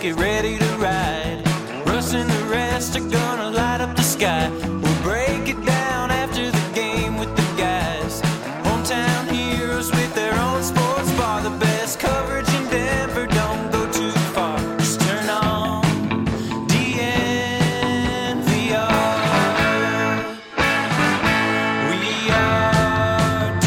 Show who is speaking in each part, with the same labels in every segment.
Speaker 1: get ready to ride. Russ and the rest are gonna light up the sky. We'll break it down after the game with the guys. Hometown heroes with their own sports bar. The best coverage in Denver, don't go too far. Just turn on DNVR. We are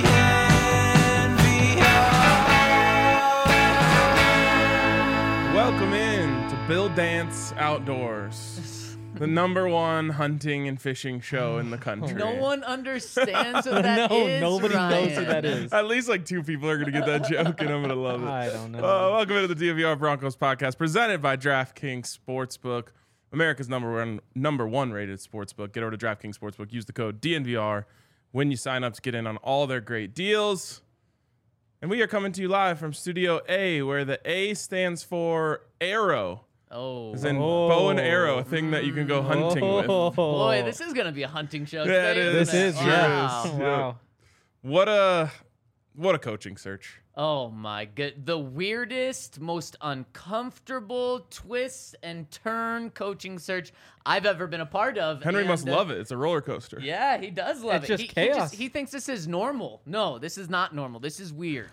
Speaker 1: DNVR.
Speaker 2: Welcome in to Bill Dance Outdoors, the number one hunting and fishing show in the country.
Speaker 3: No one understands what that is.
Speaker 4: Nobody
Speaker 3: Ryan.
Speaker 4: knows what that is.
Speaker 2: At least like two people are going to get that joke, and I'm going to love it.
Speaker 4: I don't know.
Speaker 2: Welcome into the DNVR Broncos podcast, presented by DraftKings Sportsbook, America's number one rated sportsbook. Get over to DraftKings Sportsbook. Use the code DNVR when you sign up to get in on all their great deals. And we are coming to you live from Studio A, where the A stands for arrow.
Speaker 3: Oh,
Speaker 2: As in bow and arrow, a thing that you can go hunting with.
Speaker 3: boy, this is gonna be a hunting show.
Speaker 2: Yeah, it
Speaker 3: today,
Speaker 2: is.
Speaker 3: isn't
Speaker 4: This is,
Speaker 3: it?
Speaker 4: yeah.
Speaker 3: Wow.
Speaker 4: Wow.
Speaker 2: What a coaching search.
Speaker 3: Oh my god, the weirdest, most uncomfortable twist and turn coaching search I've ever been a part of.
Speaker 2: Henry
Speaker 3: and,
Speaker 2: must love it. It's a roller coaster.
Speaker 3: Yeah, he does love
Speaker 4: It's
Speaker 3: it.
Speaker 4: just chaos.
Speaker 3: He thinks this is normal. No, this is not normal. This is weird.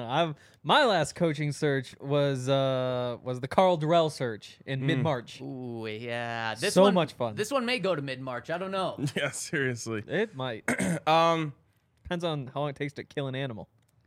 Speaker 4: My last coaching search was the Carl Durrell search in mid-March.
Speaker 3: Ooh, yeah. This
Speaker 4: So
Speaker 3: one,
Speaker 4: much fun.
Speaker 3: This one may go to mid-March. I don't know.
Speaker 2: Yeah, seriously.
Speaker 4: It might. Depends on how long it takes to kill an animal.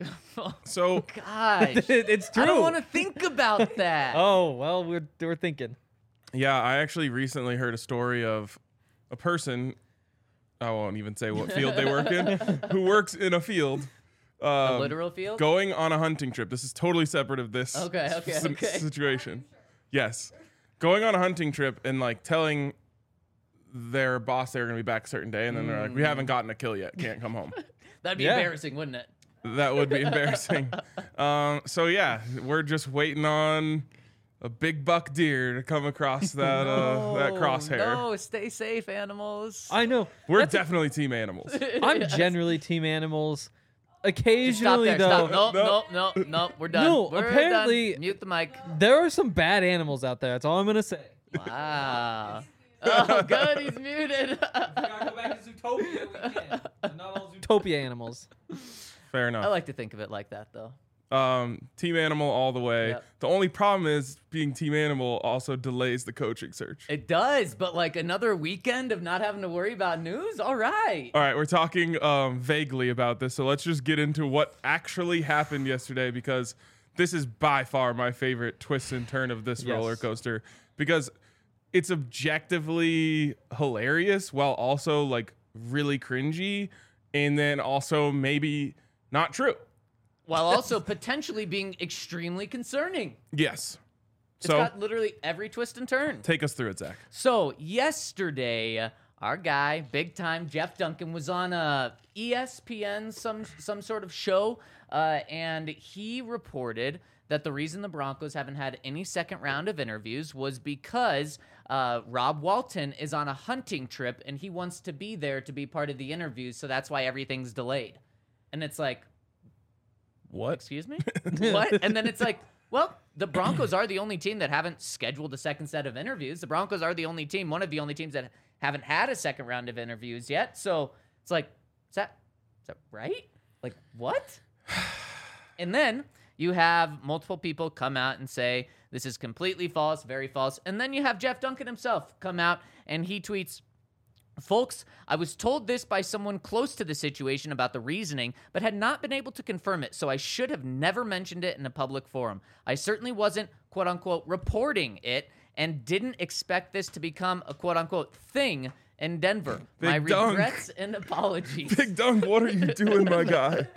Speaker 2: So
Speaker 3: Gosh.
Speaker 4: It's true.
Speaker 3: I don't want to think about that.
Speaker 4: Oh well, we're thinking.
Speaker 2: yeah, I actually recently heard a story of a person, I won't even say what field they work in, who works in a field.
Speaker 3: A literal field?
Speaker 2: Going on a hunting trip. This is totally separate of this
Speaker 3: Okay.
Speaker 2: situation. Yes. Going on a hunting trip and like telling their boss they're going to be back a certain day, and then they're like, we haven't gotten a kill yet. Can't come home.
Speaker 3: That'd be
Speaker 4: Yeah.
Speaker 3: embarrassing, wouldn't it?
Speaker 2: That would be embarrassing. So yeah, we're just waiting on a big buck deer to come across that that crosshair.
Speaker 3: No, stay safe, animals.
Speaker 4: I know.
Speaker 2: We're definitely team animals.
Speaker 4: I'm generally team animals.
Speaker 3: Stop
Speaker 4: Occasionally
Speaker 3: there.
Speaker 4: though,
Speaker 3: Stop. No. We're done.
Speaker 4: No,
Speaker 3: We're
Speaker 4: apparently-
Speaker 3: done. Mute the mic.
Speaker 4: there are some bad animals out there. That's all I'm gonna say.
Speaker 3: Wow. Oh, good. He's muted.
Speaker 4: Gotta go back to Zootopia. We can. Not all Zootopia animals.
Speaker 2: Fair enough.
Speaker 3: I like to think of it like that, though.
Speaker 2: Team animal all the way.
Speaker 3: Yep.
Speaker 2: The only problem is being team animal also delays the coaching search.
Speaker 3: It does, but like another weekend of not having to worry about news? All right.
Speaker 2: All right, we're talking vaguely about this, so let's just get into what actually happened yesterday, because this is by far my favorite twist and turn of this
Speaker 4: Yes.
Speaker 2: roller coaster, because it's objectively hilarious while also like really cringy, and then also maybe not true.
Speaker 3: While also potentially being extremely concerning.
Speaker 2: Yes.
Speaker 3: It's
Speaker 2: So
Speaker 3: got literally every twist and turn.
Speaker 2: take us through it, Zach.
Speaker 3: So yesterday, our guy, big time Jeff Duncan, was on ESPN, some sort of show, and he reported that the reason the Broncos haven't had any second round of interviews was because Rob Walton is on a hunting trip and he wants to be there to be part of the interviews, so that's why everything's delayed. And it's like,
Speaker 2: What?
Speaker 3: excuse me? What? And then it's like, well, the Broncos are the only team that haven't scheduled a second set of interviews. The Broncos are the only team, one of the only teams that haven't had a second round of interviews yet. So it's like, is that right? Like, what? And then you have multiple people come out and say, this is completely false, very false. And then you have Jeff Duncan himself come out and he tweets, folks, I was told this by someone close to the situation about the reasoning, but had not been able to confirm it, so I should have never mentioned it in a public forum. I certainly wasn't, quote-unquote, reporting it and didn't expect this to become a, quote-unquote, thing in Denver. My
Speaker 2: Big dunk.
Speaker 3: regrets and apologies.
Speaker 2: Big Dunk, what are you doing, my guy?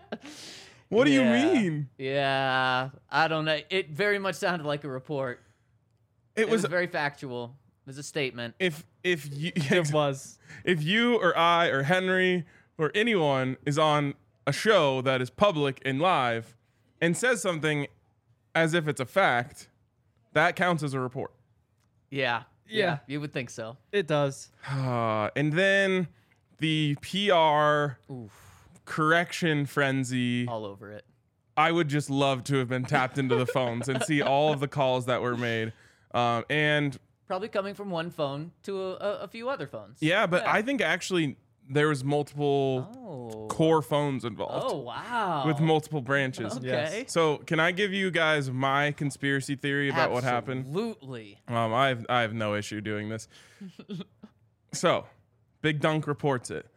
Speaker 2: What do you mean?
Speaker 3: Yeah, I don't know. It very much sounded like a report. It was very factual. It was a statement.
Speaker 2: if you
Speaker 4: It was.
Speaker 2: if you or I or Henry or anyone is on a show that is public and live and says something as if it's a fact, that counts as a report.
Speaker 3: Yeah.
Speaker 4: Yeah.
Speaker 3: You would think so.
Speaker 4: It does.
Speaker 2: And then the PR correction frenzy.
Speaker 3: All over it.
Speaker 2: I would just love to have been tapped into the phones and see all of the calls that were made. And
Speaker 3: Probably coming from one phone to a few other phones.
Speaker 2: yeah, but I think actually there was multiple core phones involved.
Speaker 3: Oh, wow.
Speaker 2: With multiple branches.
Speaker 3: Okay.
Speaker 2: So can I give you guys my conspiracy theory about what happened?
Speaker 3: Absolutely.
Speaker 2: I have no issue doing this. So, Big Dunk reports it,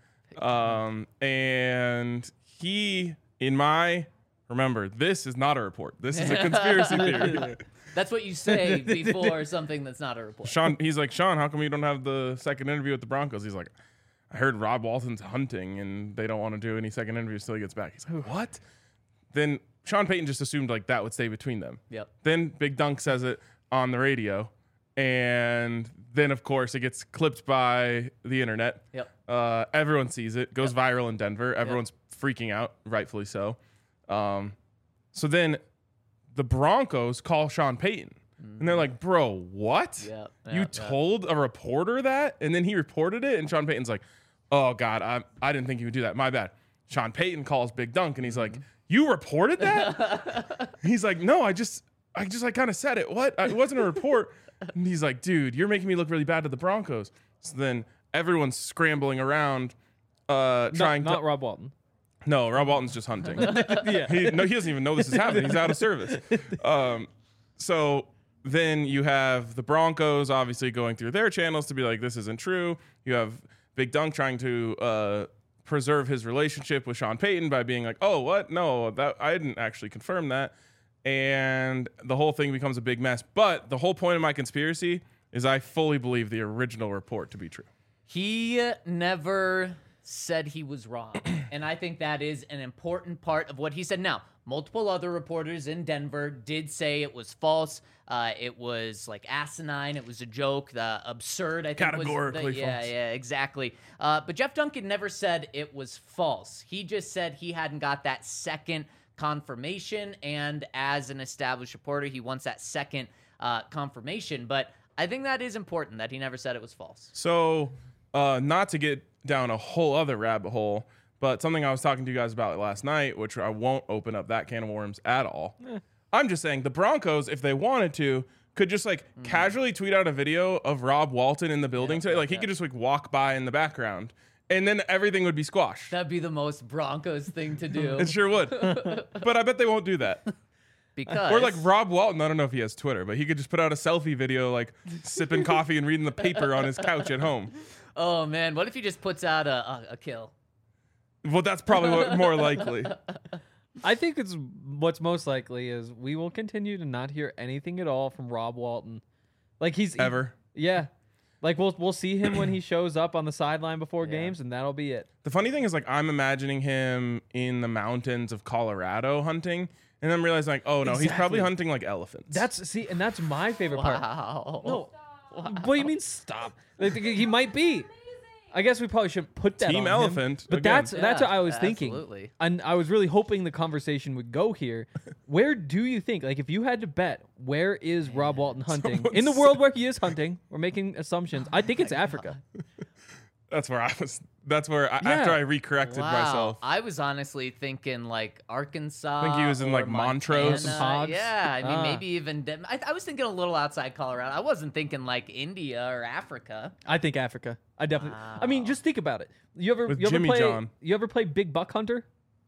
Speaker 2: and he, remember, this is not a report. This is a conspiracy theory.
Speaker 3: That's what you say before something that's not a report.
Speaker 2: He's like, Sean, how come you don't have the second interview with the Broncos? He's like, I heard Rob Walton's hunting, and they don't want to do any second interviews till he gets back. He's like, what? Then Sean Payton just assumed like that would stay between them.
Speaker 3: Yep.
Speaker 2: Then Big Dunk says it on the radio, and then of course it gets clipped by the internet.
Speaker 3: Yep.
Speaker 2: Everyone sees it, goes viral in Denver. Everyone's freaking out, rightfully so. So then the Broncos call Sean Payton, and they're like, "Bro, what?
Speaker 3: Yep,
Speaker 2: You
Speaker 3: yep,
Speaker 2: told a reporter that?" And then he reported it, and Sean Payton's like, "Oh God, I didn't think you would do that. My bad." Sean Payton calls Big Dunk, and he's like, "You reported that?" He's like, "No, I just kind of said it. What? It wasn't a report." And he's like, "Dude, you're making me look really bad to the Broncos." So then everyone's scrambling around, trying
Speaker 4: not
Speaker 2: to.
Speaker 4: Rob Walton.
Speaker 2: No, Rob Walton's just hunting.
Speaker 4: Yeah.
Speaker 2: He doesn't even know this is happening. He's out of service. So then you have the Broncos obviously going through their channels to be like, this isn't true. You have Big Dunk trying to preserve his relationship with Sean Payton by being like, oh, what? No, that I didn't actually confirm that. And the whole thing becomes a big mess. But the whole point of my conspiracy is I fully believe the original report to be true.
Speaker 3: He never said he was wrong. And I think that is an important part of what he said. Now, multiple other reporters in Denver did say it was false. It was like asinine. It was a joke. The absurd, I think.
Speaker 2: Categorically false.
Speaker 3: Yeah, exactly. But Jeff Duncan never said it was false. He just said he hadn't got that second confirmation. And as an established reporter, he wants that second confirmation. But I think that is important that he never said it was false.
Speaker 2: So, not to get down a whole other rabbit hole, but something I was talking to you guys about last night, which I won't open up that can of worms at all. I'm just saying the Broncos, if they wanted to, could just like casually tweet out a video of Rob Walton in the building today. Like he could just like walk by in the background, and then everything would be squashed.
Speaker 3: That'd be the most Broncos thing to do.
Speaker 2: It sure would. But I bet they won't do that.
Speaker 3: Because
Speaker 2: Or like Rob Walton, I don't know if he has Twitter, but he could just put out a selfie video like sipping coffee and reading the paper on his couch at home.
Speaker 3: oh man, what if he just puts out a kill?
Speaker 2: Well, that's probably what more likely.
Speaker 4: I think what's most likely is we will continue to not hear anything at all from Rob Walton. Like
Speaker 2: Ever.
Speaker 4: Yeah. Like we'll see him when he shows up on the sideline before games, and that'll be it.
Speaker 2: The funny thing is, like, I'm imagining him in the mountains of Colorado hunting, and I'm realizing, like, oh no, he's probably
Speaker 4: Exactly.
Speaker 2: hunting like elephants.
Speaker 4: And that's my favorite part.
Speaker 3: Wow.
Speaker 4: No, what do you mean stop? Like, he might be. I guess we probably shouldn't put that
Speaker 2: Team
Speaker 4: on him,
Speaker 2: elephant,
Speaker 4: but
Speaker 2: again.
Speaker 4: that's what I was thinking.
Speaker 3: Absolutely.
Speaker 4: And I was really hoping the conversation would go here. Where do you think, like, if you had to bet, where is Rob Walton hunting in the world where he is hunting? We're making assumptions. I think it's Africa.
Speaker 2: That's where I was. That's where after I recorrected myself.
Speaker 3: I was honestly thinking like Arkansas.
Speaker 2: I think he was in,
Speaker 3: or
Speaker 2: like, Montrose.
Speaker 3: Montana.
Speaker 4: Hogs.
Speaker 3: Yeah, I mean maybe even. I was thinking a little outside Colorado. I wasn't thinking like India or Africa.
Speaker 4: I think Africa. I definitely. I mean, just think about it. You ever
Speaker 2: With
Speaker 4: you ever
Speaker 2: Jimmy
Speaker 4: play
Speaker 2: John.
Speaker 4: you ever play Big Buck Hunter?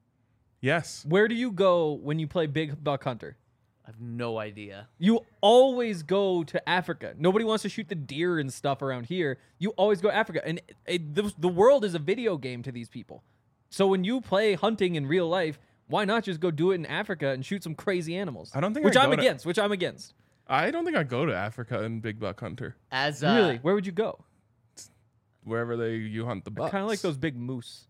Speaker 2: Yes.
Speaker 4: Where do you go when you play Big Buck Hunter?
Speaker 3: I have no idea.
Speaker 4: You always go to Africa. Nobody wants to shoot the deer and stuff around here. You always go to Africa. And the world is a video game to these people. So when you play hunting in real life, why not just go do it in Africa and shoot some crazy animals?
Speaker 2: I don't think
Speaker 4: Which
Speaker 2: I'd
Speaker 4: I'm
Speaker 2: go to-
Speaker 4: against. Which I'm against.
Speaker 2: I don't think I'd go to Africa in Big Buck Hunter.
Speaker 3: As
Speaker 4: Really? Where would you go?
Speaker 2: Wherever you hunt the bucks.
Speaker 4: Kind of like those big moose.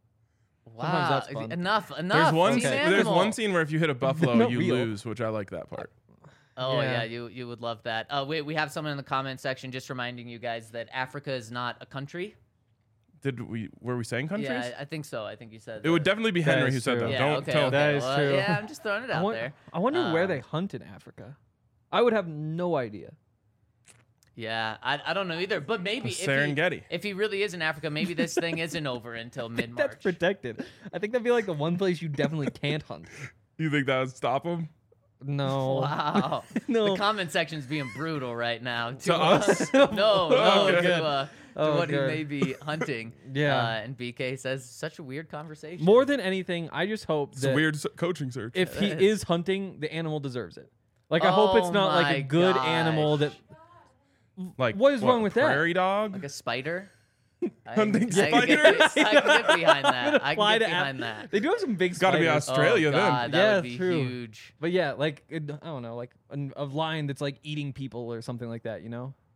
Speaker 3: wow,
Speaker 4: that's fun.
Speaker 3: enough.
Speaker 2: There's one.
Speaker 3: Team
Speaker 2: There's
Speaker 3: animal.
Speaker 2: one scene where if you hit a buffalo,
Speaker 4: not
Speaker 2: you
Speaker 4: real.
Speaker 2: lose, which I like that part.
Speaker 3: Oh
Speaker 4: Yeah.
Speaker 3: yeah, you would love that. We have someone in the comment section just reminding you guys that Africa is not a country.
Speaker 2: Were we saying countries?
Speaker 3: Yeah, I think so. I think you said
Speaker 2: It would definitely be Henry
Speaker 4: is
Speaker 2: who said
Speaker 4: true.
Speaker 2: that.
Speaker 3: Yeah,
Speaker 2: Don't
Speaker 3: okay,
Speaker 2: tell.
Speaker 3: okay.
Speaker 4: That is
Speaker 3: Well,
Speaker 4: true.
Speaker 3: Yeah, I'm just throwing it out there.
Speaker 4: I wonder where they
Speaker 3: Um,
Speaker 4: hunt in Africa. I would have no idea.
Speaker 3: Yeah, I don't know either. But maybe
Speaker 2: The Serengeti.
Speaker 3: if he really is in Africa, maybe this thing isn't over until mid
Speaker 4: That's
Speaker 3: March.
Speaker 4: protected. I think that'd be like the one place you definitely can't hunt.
Speaker 2: You think that would stop him?
Speaker 4: No.
Speaker 3: Wow.
Speaker 4: No.
Speaker 3: The comment section's being brutal right now.
Speaker 2: To us?
Speaker 3: No,
Speaker 2: Okay.
Speaker 3: to
Speaker 4: Oh,
Speaker 3: what he
Speaker 4: good.
Speaker 3: may be hunting.
Speaker 4: Yeah.
Speaker 3: And BK says, such a weird conversation.
Speaker 4: More than anything, I just hope
Speaker 2: It's a
Speaker 4: that
Speaker 2: weird coaching search.
Speaker 4: if he
Speaker 3: It is.
Speaker 4: is hunting, the animal deserves it. Like, I hope it's
Speaker 3: Oh
Speaker 4: not like
Speaker 3: my
Speaker 4: a good
Speaker 3: gosh.
Speaker 4: animal that.
Speaker 2: Like,
Speaker 4: what is wrong with that?
Speaker 2: Prairie dog?
Speaker 3: Like a spider?
Speaker 2: Hunting
Speaker 3: I can
Speaker 2: spiders?
Speaker 3: get behind that. I
Speaker 4: Fly
Speaker 3: can get
Speaker 4: to
Speaker 3: behind that.
Speaker 4: They do have some big
Speaker 2: Gotta be
Speaker 4: spiders.
Speaker 2: Australia
Speaker 3: oh,
Speaker 2: then.
Speaker 3: God, that
Speaker 4: Yeah,
Speaker 3: would be
Speaker 4: true.
Speaker 3: huge.
Speaker 4: But yeah, like, I don't know, like a lion that's like eating people or something like that,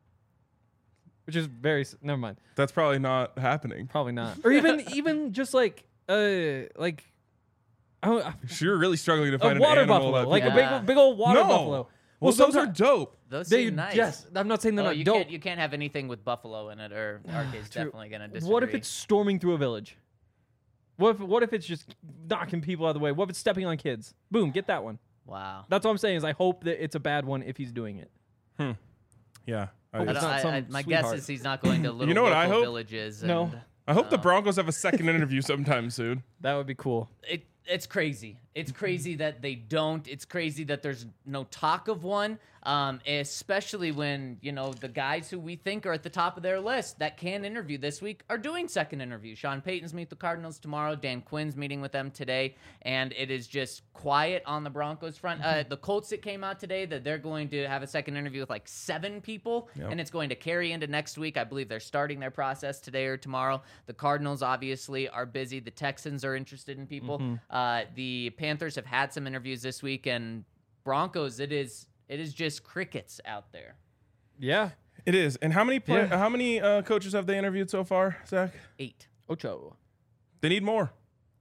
Speaker 4: Which is very. Never mind.
Speaker 2: That's probably not happening.
Speaker 4: Probably not. Or even just like I don't,
Speaker 2: So you're really struggling to
Speaker 4: a
Speaker 2: find an
Speaker 4: water
Speaker 2: animal
Speaker 4: buffalo,
Speaker 2: that
Speaker 4: like
Speaker 2: people-
Speaker 3: Yeah.
Speaker 4: a big old water
Speaker 2: No.
Speaker 4: buffalo.
Speaker 2: Well, those are
Speaker 4: sometimes-
Speaker 2: dope.
Speaker 3: Those
Speaker 4: They
Speaker 3: seem nice.
Speaker 4: yes, I'm not saying they're
Speaker 3: Oh,
Speaker 4: not
Speaker 3: you
Speaker 4: dope.
Speaker 3: can't have anything with buffalo in it, or RK's
Speaker 4: True.
Speaker 3: definitely gonna disagree.
Speaker 4: What if it's storming through a village? What if it's just knocking people out of the way? What if it's stepping on kids? Boom, get that one.
Speaker 3: wow?
Speaker 4: That's what I'm saying is I hope that it's a bad one if he's doing it.
Speaker 2: Yeah.
Speaker 4: Hope
Speaker 3: I
Speaker 4: it's
Speaker 3: don't-
Speaker 4: not some
Speaker 3: my guess
Speaker 4: sweetheart.
Speaker 3: is he's not going to little
Speaker 2: know what I
Speaker 3: local
Speaker 2: hope?
Speaker 3: villages.
Speaker 4: No.
Speaker 3: And,
Speaker 2: I hope the
Speaker 3: Oh.
Speaker 2: Broncos have a second interview sometime soon.
Speaker 4: That would be cool.
Speaker 3: It's crazy. It's crazy that they don't. It's crazy that there's no talk of one, especially when, the guys who we think are at the top of their list that can interview this week are doing second interviews. Sean Payton's meet the Cardinals tomorrow. Dan Quinn's meeting with them today. And it is just quiet on the Broncos front. The Colts, it came out today that they're going to have a second interview with like 7 people, and it's going to carry into next week. I believe they're starting their process today or tomorrow. The Cardinals obviously are busy. The Texans are interested in people. The Panthers have had some interviews this week, and Broncos, it is just crickets out there.
Speaker 4: Yeah.
Speaker 2: It is. And how many
Speaker 4: Yeah.
Speaker 2: how many coaches have they interviewed so far, Zach?
Speaker 3: 8.
Speaker 4: Ocho.
Speaker 2: They need more.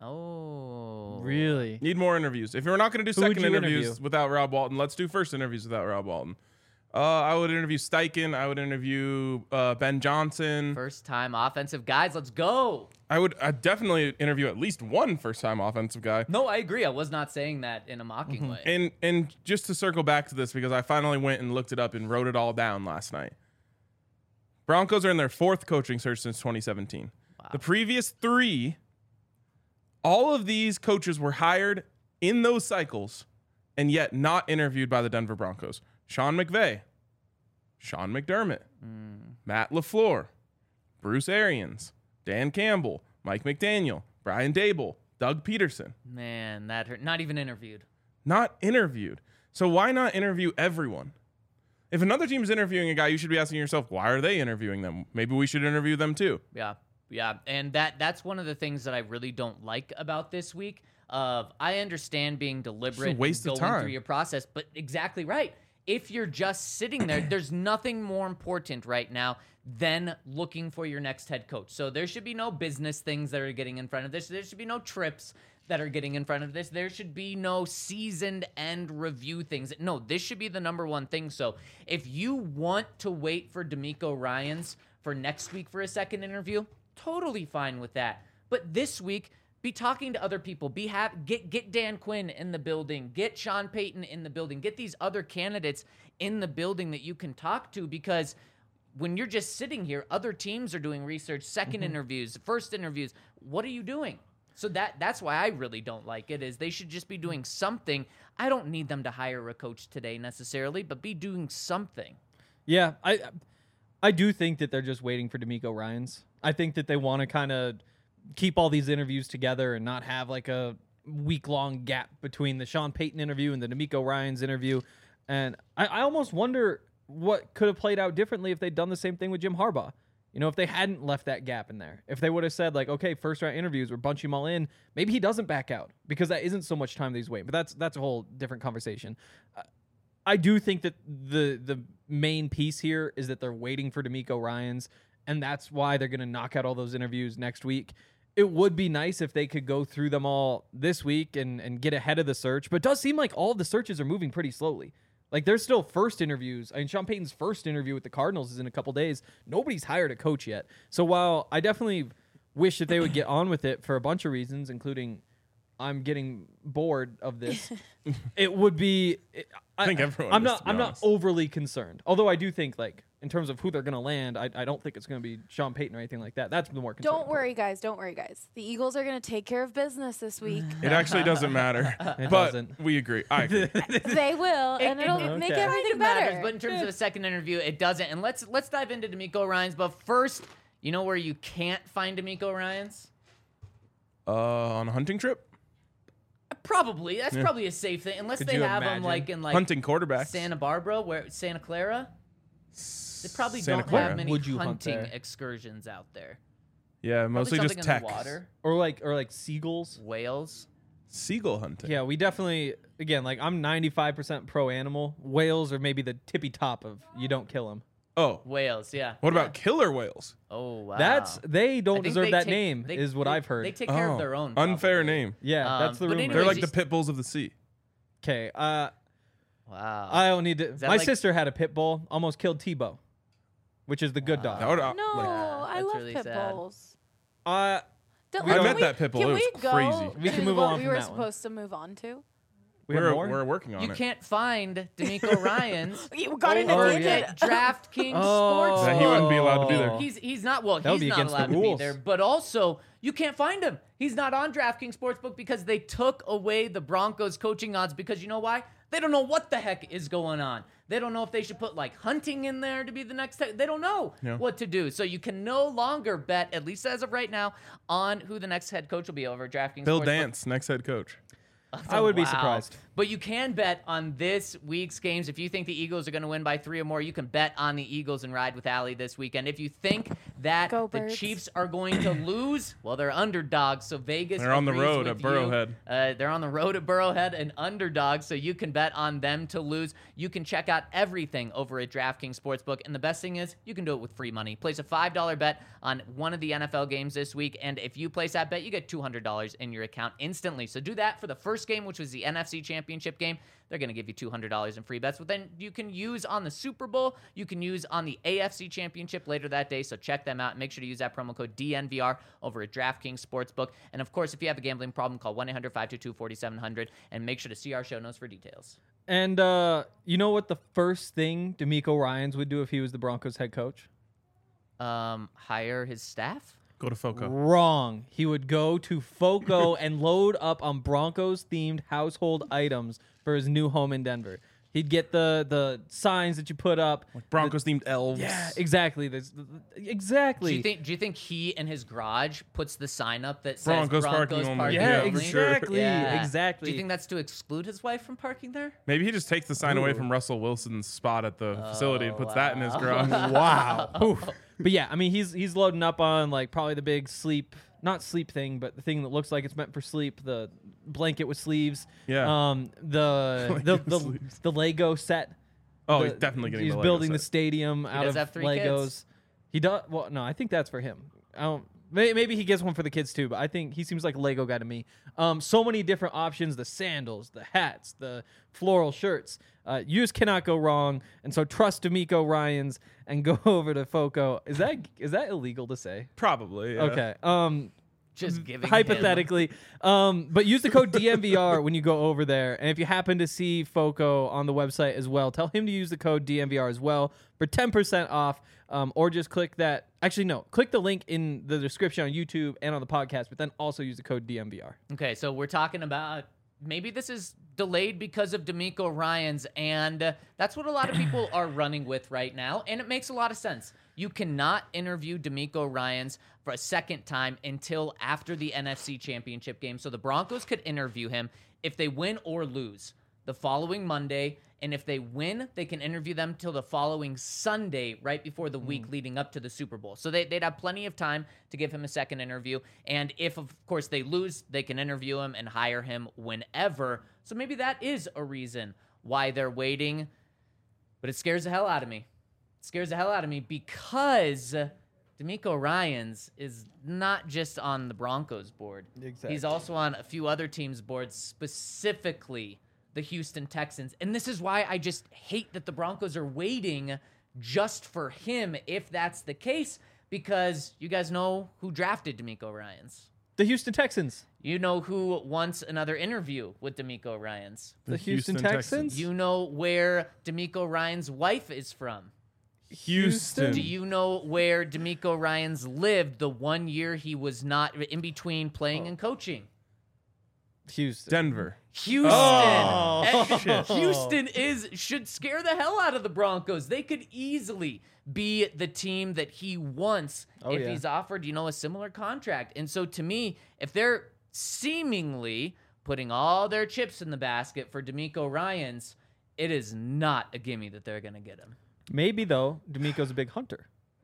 Speaker 3: Oh.
Speaker 4: Really?
Speaker 2: Need more interviews. If we're not going to do
Speaker 4: Who would
Speaker 2: second
Speaker 4: you
Speaker 2: interviews
Speaker 4: interview?
Speaker 2: without Rob Walton, let's do first interviews without Rob Walton. I would interview Steichen. I would interview Ben Johnson.
Speaker 3: First time offensive guys, let's go.
Speaker 2: I'd definitely interview at least one first-time offensive guy.
Speaker 3: No, I agree. I was not saying that in a mocking way.
Speaker 2: And just to circle back to this, because I finally went and looked it up and wrote it all down last night. Broncos are in their 4th coaching search since 2017.
Speaker 3: Wow.
Speaker 2: The previous 3, all of these coaches were hired in those cycles and yet not interviewed by the Denver Broncos. Sean McVay, Sean McDermott, Matt LaFleur, Bruce Arians, Dan Campbell, Mike McDaniel, Brian Dable, Doug Peterson.
Speaker 3: Man, that hurt. Not even interviewed.
Speaker 2: Not interviewed. So why not interview everyone? If another team's interviewing a guy, you should be asking yourself, why are they interviewing them? Maybe we should interview them too.
Speaker 3: Yeah. And that's one of the things that I really don't like about this week. I understand being deliberate
Speaker 2: waste
Speaker 3: and
Speaker 2: of
Speaker 3: going
Speaker 2: time.
Speaker 3: through your process, but exactly right. If you're just sitting there, there's nothing more important right now than looking for your next head coach. So there should be no business things that are getting in front of this. There should be no trips that are getting in front of this. There should be no seasoned end review things. No, this should be the number one thing. So if you want to wait for D'Amico Ryans for next week for a second interview, totally fine with that. But this week, be talking to other people. Get Dan Quinn in the building. Get Sean Payton in the building. Get these other candidates in the building that you can talk to, because when you're just sitting here, other teams are doing research, second interviews, first interviews. What are you doing? So that's why I really don't like it, is they should just be doing something. I don't need them to hire a coach today necessarily, but be doing something.
Speaker 4: Yeah, I do think that they're just waiting for D'Amico Ryans. I think that they want to kind of keep all these interviews together and not have like a week-long gap between the Sean Payton interview and the D'Amico Ryans interview. And I almost wonder what could have played out differently if they'd done the same thing with Jim Harbaugh. If they hadn't left that gap in there. If they would have said, like, okay, first-round interviews, we're bunching them all in, maybe he doesn't back out, because that isn't so much time that he's waiting. But that's a whole different conversation. I do think that the main piece here is that they're waiting for D'Amico Ryans, and that's why they're going to knock out all those interviews next week. It would be nice if they could go through them all this week and get ahead of the search, but it does seem like all of the searches are moving pretty slowly. Like, there's still first interviews. I mean, Sean Payton's first interview with the Cardinals is in a couple days. Nobody's hired a coach yet. So while I definitely wish that they would get on with it for a bunch of reasons, including I'm getting bored of this, it would be...
Speaker 2: I think everyone
Speaker 4: I'm
Speaker 2: is,
Speaker 4: not.
Speaker 2: to be
Speaker 4: I'm not
Speaker 2: honest.
Speaker 4: overly concerned. Although I do think, like, in terms of who they're going to land, I don't think it's going to be Sean Payton or anything like that. That's the more concerning
Speaker 5: Don't worry, guys. Don't worry, guys. The Eagles are going to take care of business this week.
Speaker 2: It actually doesn't matter.
Speaker 4: It
Speaker 2: but
Speaker 4: doesn't.
Speaker 2: we agree. I agree.
Speaker 5: They will, and it'll make
Speaker 4: Okay.
Speaker 5: everything
Speaker 3: It matters,
Speaker 5: better.
Speaker 3: but in terms of a second interview, it doesn't. And let's dive into D'Amico Ryans. But first, you know where you can't find D'Amico Ryans?
Speaker 2: On a hunting trip?
Speaker 3: Probably. That's probably a safe thing, unless
Speaker 4: Could
Speaker 3: they
Speaker 4: you
Speaker 3: have
Speaker 4: imagine?
Speaker 3: them like in like
Speaker 2: Hunting quarterbacks.
Speaker 3: Santa Barbara, Santa Clara. They probably
Speaker 2: Santa
Speaker 3: don't
Speaker 2: Clara.
Speaker 3: have many
Speaker 4: Would you hunt
Speaker 3: hunting
Speaker 4: there?
Speaker 3: excursions out there.
Speaker 2: Yeah,
Speaker 3: Probably
Speaker 2: mostly just
Speaker 3: something in
Speaker 2: tech.
Speaker 3: the water.
Speaker 4: Or like seagulls.
Speaker 3: Whales.
Speaker 2: Seagull hunting.
Speaker 4: Yeah, we definitely, again, like I'm 95% pro animal. Whales are maybe the tippy top of you don't kill them.
Speaker 2: Oh,
Speaker 3: Whales, yeah.
Speaker 2: what
Speaker 3: Yeah.
Speaker 2: about killer whales?
Speaker 3: Oh, wow.
Speaker 4: They
Speaker 3: I
Speaker 4: don't
Speaker 3: think
Speaker 4: deserve
Speaker 3: they
Speaker 4: that
Speaker 3: take-
Speaker 4: name,
Speaker 3: they-
Speaker 4: is what
Speaker 3: they-
Speaker 4: I've heard.
Speaker 3: They take care
Speaker 2: Oh,
Speaker 3: of their own.
Speaker 2: unfair
Speaker 3: probably.
Speaker 2: name.
Speaker 4: Yeah, that's the
Speaker 3: but
Speaker 4: rumor.
Speaker 3: anyways,
Speaker 2: They're like
Speaker 3: you-
Speaker 2: the pit bulls of the sea.
Speaker 4: Okay,
Speaker 3: Wow.
Speaker 4: I don't need to.
Speaker 3: that
Speaker 4: My
Speaker 3: like-
Speaker 4: sister had a pit bull, almost killed Tebow, which is the good dog.
Speaker 2: That would,
Speaker 5: No,
Speaker 2: like,
Speaker 5: I
Speaker 3: that's
Speaker 5: love
Speaker 3: really
Speaker 5: pit
Speaker 3: sad.
Speaker 5: bulls.
Speaker 4: We
Speaker 5: can
Speaker 2: met that pit bull.
Speaker 5: Can
Speaker 2: It was
Speaker 5: we go
Speaker 2: crazy.
Speaker 4: We can
Speaker 5: to
Speaker 4: move
Speaker 5: what
Speaker 4: on
Speaker 5: we
Speaker 4: from
Speaker 5: were
Speaker 4: that one.
Speaker 5: supposed to move on to?
Speaker 4: We have more?
Speaker 2: we're working on
Speaker 3: You
Speaker 2: it.
Speaker 3: can't find D'Amico Ryans
Speaker 5: You got in
Speaker 4: Oh,
Speaker 5: a
Speaker 3: over
Speaker 4: yeah.
Speaker 3: at DraftKings
Speaker 4: Oh.
Speaker 3: Sportsbook.
Speaker 2: Yeah, he wouldn't be allowed to be there.
Speaker 3: He's not well.
Speaker 4: That would
Speaker 3: He's
Speaker 4: be
Speaker 3: not
Speaker 4: against the
Speaker 3: allowed to be
Speaker 4: rules.
Speaker 3: there. But also, you can't find him. He's not on DraftKings Sportsbook because they took away the Broncos coaching odds. Because you know why? They don't know what the heck is going on. They don't know if they should put like hunting in there to be the next. They don't know
Speaker 2: Yeah.
Speaker 3: what to do. So you can no longer bet, at least as of right now, on who the next head coach will be over at DraftKings.
Speaker 2: Bill
Speaker 3: Sportsbook.
Speaker 2: Dance, next head coach.
Speaker 4: I would be
Speaker 3: Wow.
Speaker 4: surprised.
Speaker 3: But you can bet on this week's games. If you think the Eagles are going to win by 3 or more, you can bet on the Eagles and ride with Allie this weekend. If you think that
Speaker 5: Go
Speaker 3: the
Speaker 5: Birds.
Speaker 3: Chiefs are going to lose, well, they're underdogs. So Vegas
Speaker 2: They're on the
Speaker 3: agrees
Speaker 2: road
Speaker 3: with
Speaker 2: at Burrowhead.
Speaker 3: they're on the road at Burrowhead and underdogs, so you can bet on them to lose. You can check out everything over at DraftKings Sportsbook. And the best thing is, you can do it with free money. Place a $5 bet on one of the NFL games this week. And if you place that bet, you get $200 in your account instantly. So do that for the first game, which was the NFC Championship game. They're going to give you $200 in free bets. But then you can use on the Super Bowl. You can use on the AFC Championship later that day. So check them out. Make sure to use that promo code DNVR over at DraftKings Sportsbook. And of course, if you have a gambling problem, call 1-800-522-4700 and make sure to see our show notes for details.
Speaker 4: And you know what the first thing D'Amico Ryans would do if he was the Broncos head coach?
Speaker 3: Hire his staff?
Speaker 2: Go to Foco.
Speaker 4: Wrong. He would go to Foco and load up on Broncos-themed household items for his new home in Denver. He'd get the signs that you put up.
Speaker 2: Broncos themed elves.
Speaker 4: Yeah, exactly. Exactly.
Speaker 3: Do you think he in his garage puts the sign up that says
Speaker 2: Broncos
Speaker 3: Broncos
Speaker 2: parking only?
Speaker 3: parking
Speaker 4: yeah,
Speaker 2: Yeah, for sure.
Speaker 4: exactly.
Speaker 3: Yeah.
Speaker 4: Exactly.
Speaker 3: Do you think that's to exclude his wife from parking there?
Speaker 2: Maybe he just takes the sign away from Russell Wilson's spot at the facility and puts that in his garage.
Speaker 4: Wow. Oof. But yeah, I mean, he's loading up on like probably the big not sleep thing, but the thing that looks like it's meant for sleep, the blanket with sleeves.
Speaker 2: Yeah.
Speaker 4: The
Speaker 2: with sleeves.
Speaker 4: the Lego set.
Speaker 2: Oh,
Speaker 4: The-
Speaker 2: he's definitely getting
Speaker 4: He's
Speaker 2: the Lego
Speaker 4: building the
Speaker 2: set.
Speaker 4: stadium out
Speaker 3: does
Speaker 4: of
Speaker 3: have 3
Speaker 4: Legos.
Speaker 3: kids.
Speaker 4: He does. Well, no, I think that's for him. I don't. Maybe he gets one for the kids too, but I think he seems like a Lego guy to me. So many different options: the sandals, the hats, the floral shirts. You just cannot go wrong. And so trust D'Amico Ryans and go over to Foco. Is that illegal to say?
Speaker 2: Probably. Yeah.
Speaker 4: Okay.
Speaker 3: Just giving
Speaker 4: Hypothetically, but use the code DNVR when you go over there. And if you happen to see Foco on the website as well, tell him to use the code DNVR as well for 10% off. Or just click that. Actually, no. Click the link in the description on YouTube and on the podcast, but then also use the code DNVR.
Speaker 3: Okay, so we're talking about maybe this is delayed because of D'Amico Ryans, and that's what a lot of people are running with right now, and it makes a lot of sense. You cannot interview D'Amico Ryans for a second time until after the NFC Championship game. So the Broncos could interview him if they win or lose the following Monday. And if they win, they can interview them till the following Sunday, right before the week leading up to the Super Bowl. So they'd have plenty of time to give him a second interview. And if, of course, they lose, they can interview him and hire him whenever. So maybe that is a reason why they're waiting. But it scares the hell out of me. It scares the hell out of me because D'Amico Ryans is not just on the Broncos board.
Speaker 4: Exactly.
Speaker 3: He's also on a few other teams' boards, specifically the Houston Texans. And this is why I just hate that the Broncos are waiting just for him, if that's the case, because you guys know who drafted D'Amico Ryans.
Speaker 4: The Houston Texans.
Speaker 3: You know who wants another interview with D'Amico Ryans.
Speaker 4: The Houston Texans.
Speaker 3: You know where D'Amico Ryans' wife is from.
Speaker 2: Houston.
Speaker 3: Do you know where D'Amico Ryans lived the 1 year he was not in between playing and coaching?
Speaker 4: Houston.
Speaker 2: Denver.
Speaker 3: Houston.
Speaker 4: Oh.
Speaker 3: And Houston should scare the hell out of the Broncos. They could easily be the team that he wants if
Speaker 4: yeah.
Speaker 3: he's offered, a similar contract. And so to me, if they're seemingly putting all their chips in the basket for D'Amico Ryans, it is not a gimme that they're going to get him.
Speaker 4: Maybe, though, D'Amico's a big hunter.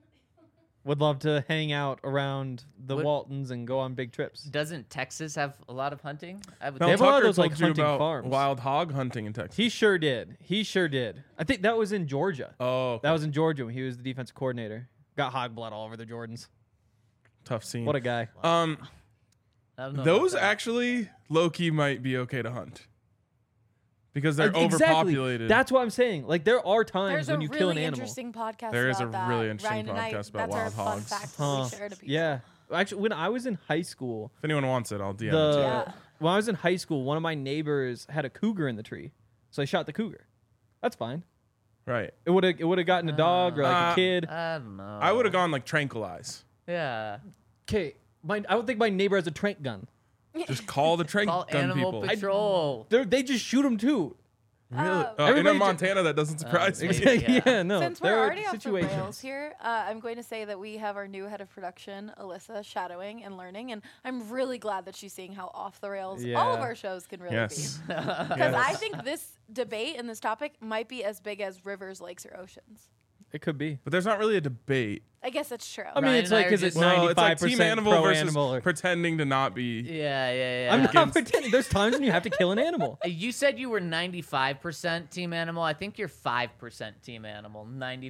Speaker 4: Would love to hang out around the Waltons and go on big trips.
Speaker 3: Doesn't Texas have a lot of hunting? I would
Speaker 2: No,
Speaker 4: They have a lot of
Speaker 2: Tucker
Speaker 4: those, like,
Speaker 2: told you
Speaker 4: hunting
Speaker 2: about
Speaker 4: farms.
Speaker 2: wild hog hunting in Texas.
Speaker 4: He sure did. I think that was in Georgia.
Speaker 2: Oh, okay.
Speaker 4: That was in Georgia when he was the defensive coordinator. Got hog blood all over the Jordans.
Speaker 2: Tough scene.
Speaker 4: What a guy.
Speaker 3: I don't know
Speaker 2: Those
Speaker 3: about that.
Speaker 2: actually low-key might be okay to hunt because they're
Speaker 4: Exactly.
Speaker 2: overpopulated.
Speaker 4: That's what I'm saying. Like, there are times
Speaker 5: There's
Speaker 4: when
Speaker 5: a
Speaker 4: you kill an
Speaker 5: really
Speaker 4: animal.
Speaker 5: interesting podcast
Speaker 2: There is
Speaker 5: about
Speaker 2: a
Speaker 5: that.
Speaker 2: really interesting
Speaker 5: Ryan and I,
Speaker 2: podcast about
Speaker 5: that's
Speaker 2: wild
Speaker 5: our
Speaker 2: hogs.
Speaker 5: Fun fact
Speaker 4: Huh.
Speaker 5: we share to people.
Speaker 4: Yeah. Actually, when I was in high school,
Speaker 2: If anyone wants it, I'll DM it to you.
Speaker 5: Yeah.
Speaker 4: when I was in high school, one of my neighbors had a cougar in the tree, so I shot the cougar. That's fine.
Speaker 2: Right.
Speaker 4: It would have gotten a dog or like a kid.
Speaker 3: I don't know.
Speaker 2: I would have gone like tranquilize.
Speaker 3: Yeah.
Speaker 4: Okay, I don't think my neighbor has a trank gun.
Speaker 2: Just call the trank
Speaker 3: Call
Speaker 2: gun
Speaker 3: Animal
Speaker 2: people.
Speaker 3: Patrol.
Speaker 4: They just shoot them too.
Speaker 2: Really? In
Speaker 4: Everybody
Speaker 2: Montana, that doesn't surprise me.
Speaker 3: maybe. Yeah.
Speaker 4: No.
Speaker 5: Since we're
Speaker 4: there are
Speaker 5: already off the rails
Speaker 4: situations.
Speaker 5: here, I'm going to say that we have our new head of production, Alyssa, shadowing and learning, and I'm really glad that she's seeing how off the rails all of
Speaker 4: Yeah.
Speaker 5: our shows can really
Speaker 2: Yes.
Speaker 5: be. Because I think this debate and this topic might be as big as rivers, lakes, or oceans.
Speaker 4: It could be.
Speaker 2: But there's not really a debate.
Speaker 5: I guess that's true.
Speaker 4: I mean,
Speaker 3: Ryan
Speaker 4: it's
Speaker 3: and I
Speaker 4: like,
Speaker 3: are
Speaker 4: is it
Speaker 3: just-
Speaker 2: Well, it's like
Speaker 4: 95%
Speaker 2: team animal
Speaker 4: pro
Speaker 2: versus
Speaker 4: animal? Or,
Speaker 2: pretending to not be.
Speaker 3: Yeah.
Speaker 4: I'm not pretending. There's times when you have to kill an animal.
Speaker 3: You said you were 95% team animal. I think you're 5% team animal.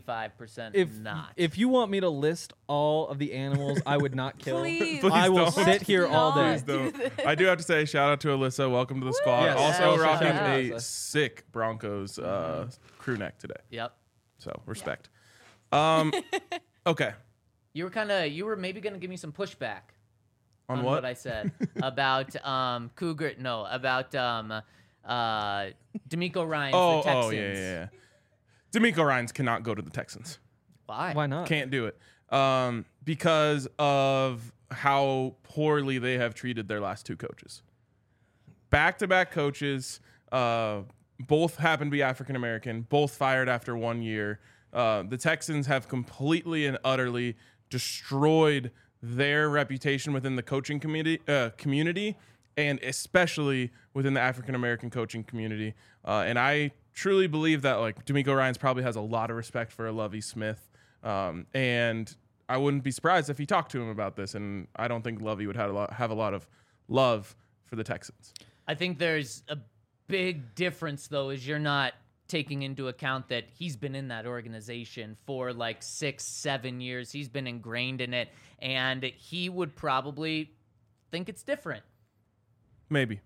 Speaker 3: 95% not.
Speaker 4: If you want me to list all of the animals I would not kill,
Speaker 5: Please.
Speaker 4: I will
Speaker 2: don't.
Speaker 4: sit here all day.
Speaker 5: Let's
Speaker 2: Though.
Speaker 5: do this.
Speaker 2: I do have to say, shout out to Alyssa. Welcome to the squad.
Speaker 4: Yes.
Speaker 2: Also
Speaker 3: Yeah,
Speaker 2: rocking
Speaker 3: shout out,
Speaker 2: a
Speaker 4: Alyssa.
Speaker 2: sick Broncos crew neck today.
Speaker 3: Yep.
Speaker 2: So respect. Okay.
Speaker 3: You were maybe gonna give me some pushback
Speaker 2: On
Speaker 3: what
Speaker 2: what?
Speaker 3: I said about Cougar. No, about D'Amico Ryans, the Texans.
Speaker 2: yeah. D'Amico Ryans cannot go to the Texans.
Speaker 3: Why?
Speaker 4: Why not?
Speaker 2: Can't do it. Because of how poorly they have treated their last two coaches. Back-to-back coaches, both happen to be African American, both fired after 1 year. The Texans have completely and utterly destroyed their reputation within the coaching community, and especially within the African American coaching community. And I truly believe that like D'Amico Ryans probably has a lot of respect for Lovie Smith, and I wouldn't be surprised if he talked to him about this. And I don't think Lovie would have a lot of love for the Texans.
Speaker 3: I think there's a big difference, though, is you're not taking into account that he's been in that organization for like 6-7 years. He's been ingrained in it, and he would probably think it's different.
Speaker 2: Maybe.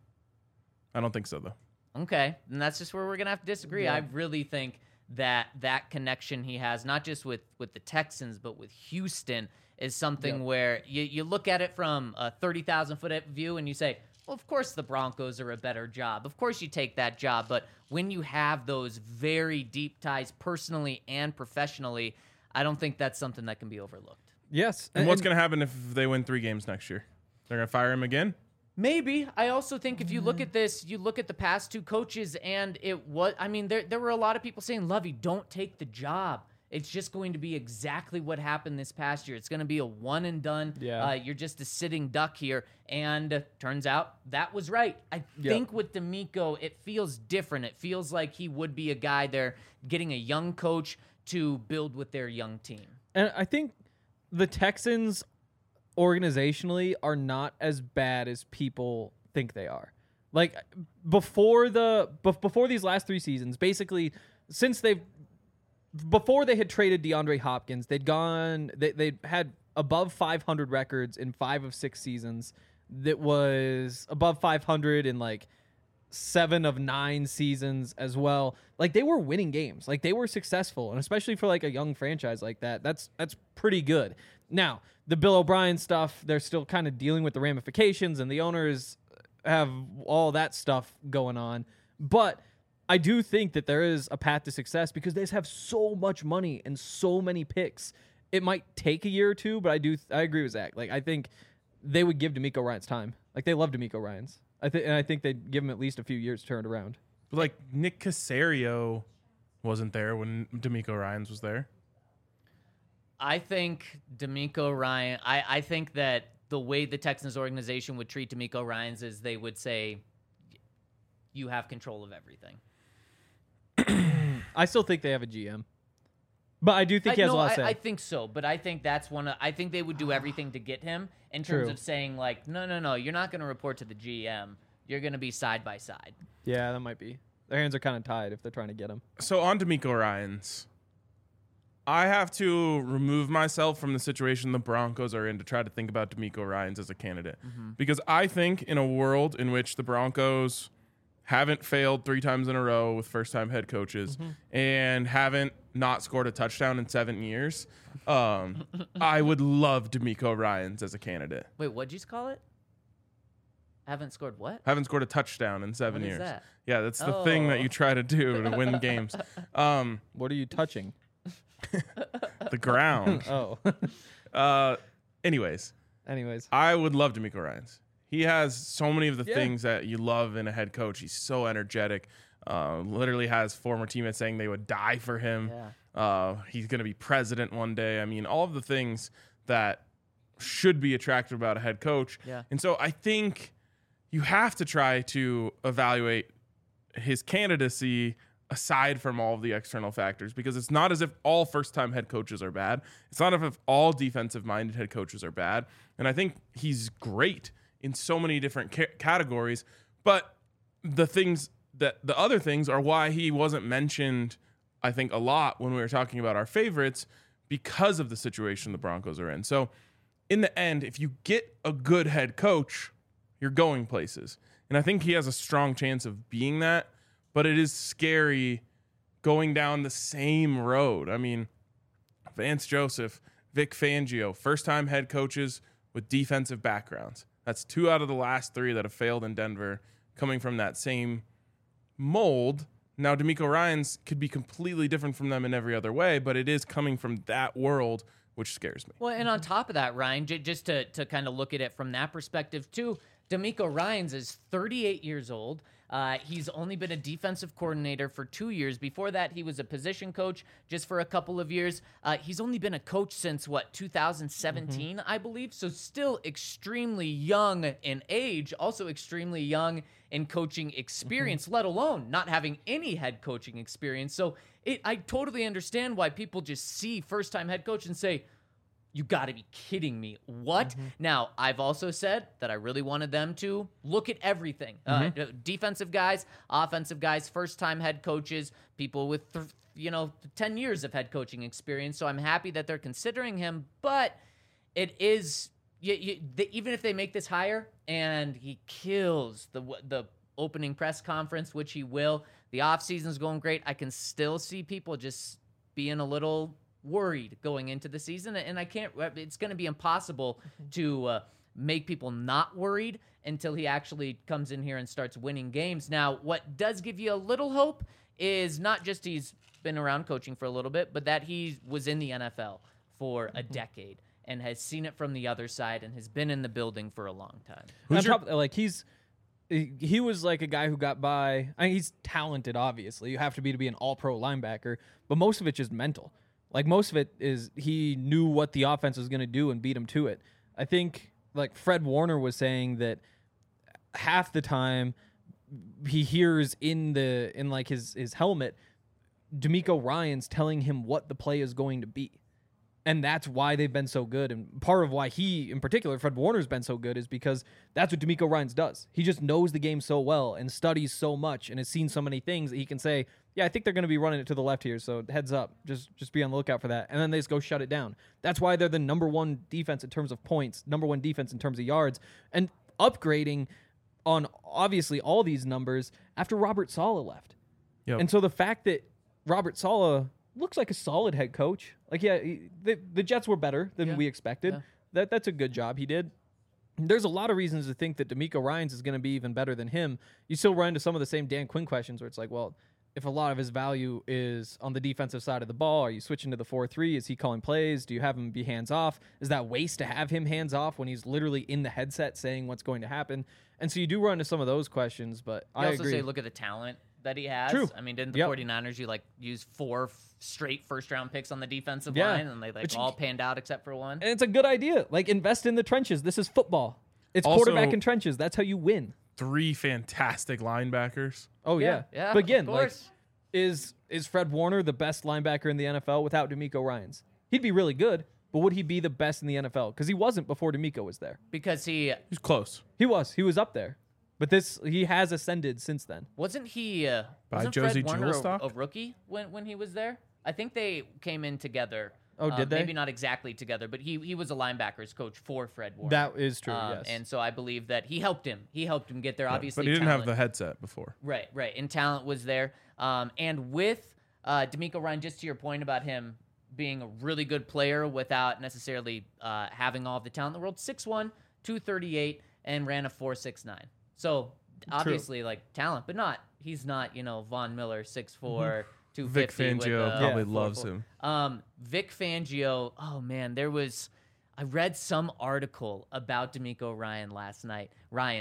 Speaker 2: I don't think so, though.
Speaker 3: Okay, and that's just where we're gonna have to disagree.
Speaker 4: Yeah.
Speaker 3: I really think that connection he has, not just with the Texans, but with Houston, is something
Speaker 4: Yep.
Speaker 3: where you look at it from a 30,000-foot view and you say, well, of course the Broncos are a better job. Of course you take that job. But when you have those very deep ties personally and professionally, I don't think that's something that can be overlooked.
Speaker 4: Yes.
Speaker 2: And what's going to happen if they win 3 games next year? They're going to fire him again?
Speaker 3: Maybe. I also think if you look at this, you look at the past two coaches, and there were a lot of people saying, Lovey, don't take the job. It's just going to be exactly what happened this past year. It's going to be a one and done.
Speaker 4: Yeah.
Speaker 3: You're just a sitting duck here. And turns out that was right. I think with D'Amico, it feels different. It feels like he would be a guy there getting a young coach to build with their young team.
Speaker 4: And I think the Texans organizationally are not as bad as people think they are. Like before these last 3 seasons, basically before they had traded DeAndre Hopkins, they'd had above 500 records in 5 of 6 seasons. That was above 500 in like 7 of 9 seasons as well. Like they were winning games. Like they were successful, and especially for like a young franchise like that, that's pretty good. Now, the Bill O'Brien stuff, they're still kind of dealing with the ramifications, and the owners have all that stuff going on. But I do think that there is a path to success because they just have so much money and so many picks. It might take a year or two, but I agree with Zach. Like, I think they would give D'Amico Ryans time. Like, they love D'Amico Ryans. I think they'd give him at least a few years to turn it around.
Speaker 2: But like Nick Caserio wasn't there when D'Amico Ryans was there.
Speaker 3: I think D'Amico Ryan. I think that the way the Texans organization would treat D'Amico Ryans is they would say, "You have control of everything."
Speaker 4: I still think they have a GM, but I do think he has a lot to say.
Speaker 3: I think so, but I think that's I think they would do everything to get him in terms
Speaker 4: True.
Speaker 3: of saying like, no, you're not going to report to the GM. You're going to be side by side.
Speaker 4: Yeah, that might be. Their hands are kind of tied if they're trying to get him.
Speaker 2: So on D'Amico Ryans, I have to remove myself from the situation the Broncos are in to try to think about D'Amico Ryans as a candidate. Because I think in a world in which the Broncos haven't failed 3 times in a row with first-time head coaches and haven't not scored a touchdown in 7 years, I would love D'Amico Ryans as a candidate.
Speaker 3: Wait, what'd you call it? Haven't scored what?
Speaker 2: Haven't scored a touchdown in 7
Speaker 3: What is
Speaker 2: years.
Speaker 3: that?
Speaker 2: Yeah, that's the thing that
Speaker 3: Oh.
Speaker 2: you try to do to win games.
Speaker 4: What are you touching?
Speaker 2: The ground. Anyways, I would love D'Amico Ryans. He has so many of the things that you love in a head coach. He's so energetic. Literally has former teammates saying they would die for him.
Speaker 3: Yeah.
Speaker 2: He's going to be president one day. I mean, all of the things that should be attractive about a head coach.
Speaker 3: Yeah.
Speaker 2: And so I think you have to try to evaluate his candidacy aside from all of the external factors, because it's not as if all first-time head coaches are bad. It's not as if all defensive-minded head coaches are bad. And I think he's great in so many different categories. But the other things are why he wasn't mentioned, I think, a lot when we were talking about our favorites, because of the situation the Broncos are in. So in the end, if you get a good head coach, you're going places. And I think he has a strong chance of being that, but it is scary going down the same road. I mean, Vance Joseph, Vic Fangio, first-time head coaches with defensive backgrounds. That's 2 out of the last 3 that have failed in Denver, coming from that same mold. Now, D'Amico Ryans could be completely different from them in every other way, but it is coming from that world, which scares me.
Speaker 3: Well, and on top of that, Ryan, just to kind of look at it from that perspective too, D'Amico Ryans is 38 years old. He's only been a defensive coordinator for 2 years. Before that, he was a position coach just for a couple of years. He's only been a coach since, 2017, I believe. So still extremely young in age, also extremely young in coaching experience, let alone not having any head coaching experience. So I totally understand why people just see first-time head coach and say, you got to be kidding me. What? Now, I've also said that I really wanted them to look at everything. Defensive guys, offensive guys, first-time head coaches, people with 10 years of head coaching experience. So I'm happy that they're considering him. But it is, even if they make this hire and he kills the opening press conference, which he will, the offseason's going great, I can still see people just being a little worried going into the season, and it's going to be impossible to make people not worried until he actually comes in here and starts winning games. Now, what does give you a little hope is not just he's been around coaching for a little bit, but that he was in the NFL for a decade and has seen it from the other side and has been in the building for a long time.
Speaker 4: He was like a guy who got by. I mean, he's talented, obviously. You have to be an all-pro linebacker, but most of it's just mental. Like, most of it is he knew what the offense was going to do and beat him to it. I think, like, Fred Warner was saying that half the time he hears in his helmet D'Amico Ryans telling him what the play is going to be. And that's why they've been so good. And part of why he, in particular, Fred Warner's been so good is because that's what D'Amico Ryans does. He just knows the game so well and studies so much and has seen so many things that he can say, yeah, I think they're going to be running it to the left here, so heads up. Just be on the lookout for that. And then they just go shut it down. That's why they're the number 1 defense in terms of points, number 1 defense in terms of yards, and upgrading on, obviously, all these numbers after Robert Saleh left.
Speaker 2: Yep.
Speaker 4: And so the fact that Robert Saleh looks like a solid head coach. Like, yeah, the Jets were better than we expected. Yeah. That's a good job he did. There's a lot of reasons to think that D'Amico Ryans is going to be even better than him. You still run into some of the same Dan Quinn questions where it's like, well, if a lot of his value is on the defensive side of the ball. Are you switching to the 4-3? Is he calling plays? Do you have him be hands off? Is that waste to have him hands off when he's literally in the headset saying what's going to happen? And so you do run into some of those questions, but
Speaker 3: You
Speaker 4: I
Speaker 3: also
Speaker 4: agree.
Speaker 3: say look at the talent that he has.
Speaker 4: True.
Speaker 3: I mean, didn't the
Speaker 4: Yep.
Speaker 3: 49ers use 4 straight first-round picks on the defensive
Speaker 4: Yeah.
Speaker 3: line, and they
Speaker 4: But you-
Speaker 3: all panned out except for one?
Speaker 4: And it's a good idea. Like, invest in the trenches. This is football. It's
Speaker 2: Also-
Speaker 4: quarterback in trenches. That's how you win.
Speaker 2: 3 fantastic linebackers.
Speaker 4: Oh yeah.
Speaker 3: Yeah,
Speaker 4: But again,
Speaker 3: of
Speaker 4: like,
Speaker 3: course.
Speaker 4: is Fred Warner the best linebacker in the NFL without D'Amico Ryans? He'd be really good, but would he be the best in the NFL? Because he wasn't before D'Amico was there.
Speaker 3: Because he
Speaker 2: He's close.
Speaker 4: He was up there, but he has ascended since then.
Speaker 3: wasn't
Speaker 2: By
Speaker 3: Fred
Speaker 2: Josie
Speaker 3: Warner
Speaker 2: Jewelstock?
Speaker 3: a rookie when he was there? I think they came in together.
Speaker 4: Oh, did they?
Speaker 3: Maybe not exactly together, but he was a linebackers coach for Fred Warner.
Speaker 4: That is true. Yes.
Speaker 3: And so I believe that he helped him. He helped him get there. Obviously,
Speaker 2: But he didn't have
Speaker 3: talent-
Speaker 2: the headset before.
Speaker 3: Right. And talent was there. And with D'Amico Ryan, just to your point about him being a really good player without necessarily having all of the talent in the world, 6'1", 238, and ran a 4.69. So obviously, like, talent, but he's not, Von Miller, 6'4", 250.
Speaker 2: Vic Fangio
Speaker 3: with,
Speaker 2: probably
Speaker 3: 4.4.
Speaker 2: loves him.
Speaker 3: Vic Fangio, oh man, I read some article about D'Amico Ryan's last night.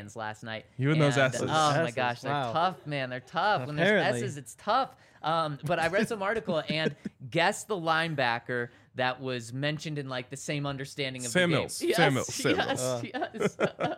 Speaker 2: You and those S's.
Speaker 3: Oh my
Speaker 4: S's,
Speaker 3: gosh, they're
Speaker 4: wow.
Speaker 3: tough, man. They're tough. When there's
Speaker 4: Apparently.
Speaker 3: S's, it's tough. But I read some article and guess the linebacker that was mentioned in like the same understanding of
Speaker 2: Sam
Speaker 3: the game.
Speaker 2: Mills.
Speaker 3: Yes,
Speaker 2: Sam Mills.
Speaker 3: yes.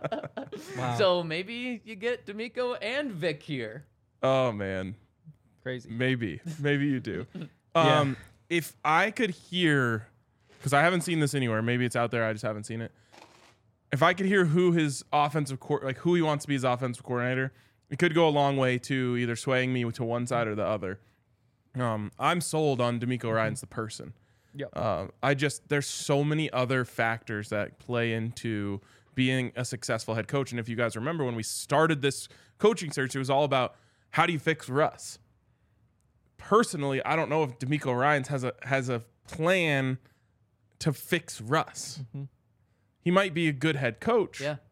Speaker 4: Wow.
Speaker 3: So maybe you get D'Amico and Vic here.
Speaker 2: Oh, man.
Speaker 4: Crazy.
Speaker 2: Maybe you do.
Speaker 4: Yeah.
Speaker 2: If I could hear, because I haven't seen this anywhere, maybe it's out there, I just haven't seen it. If I could hear who his who he wants to be his offensive coordinator, it could go a long way to either swaying me to one side or the other. I'm sold on D'Amico Ryans the person.
Speaker 4: Yep.
Speaker 2: There's so many other factors that play into being a successful head coach. And if you guys remember when we started this coaching search, it was all about how do you fix Russ? Personally, I don't know if D'Amico Ryans has a plan to fix Russ.
Speaker 4: Mm-hmm.
Speaker 2: He might be a good head coach.
Speaker 3: Yeah.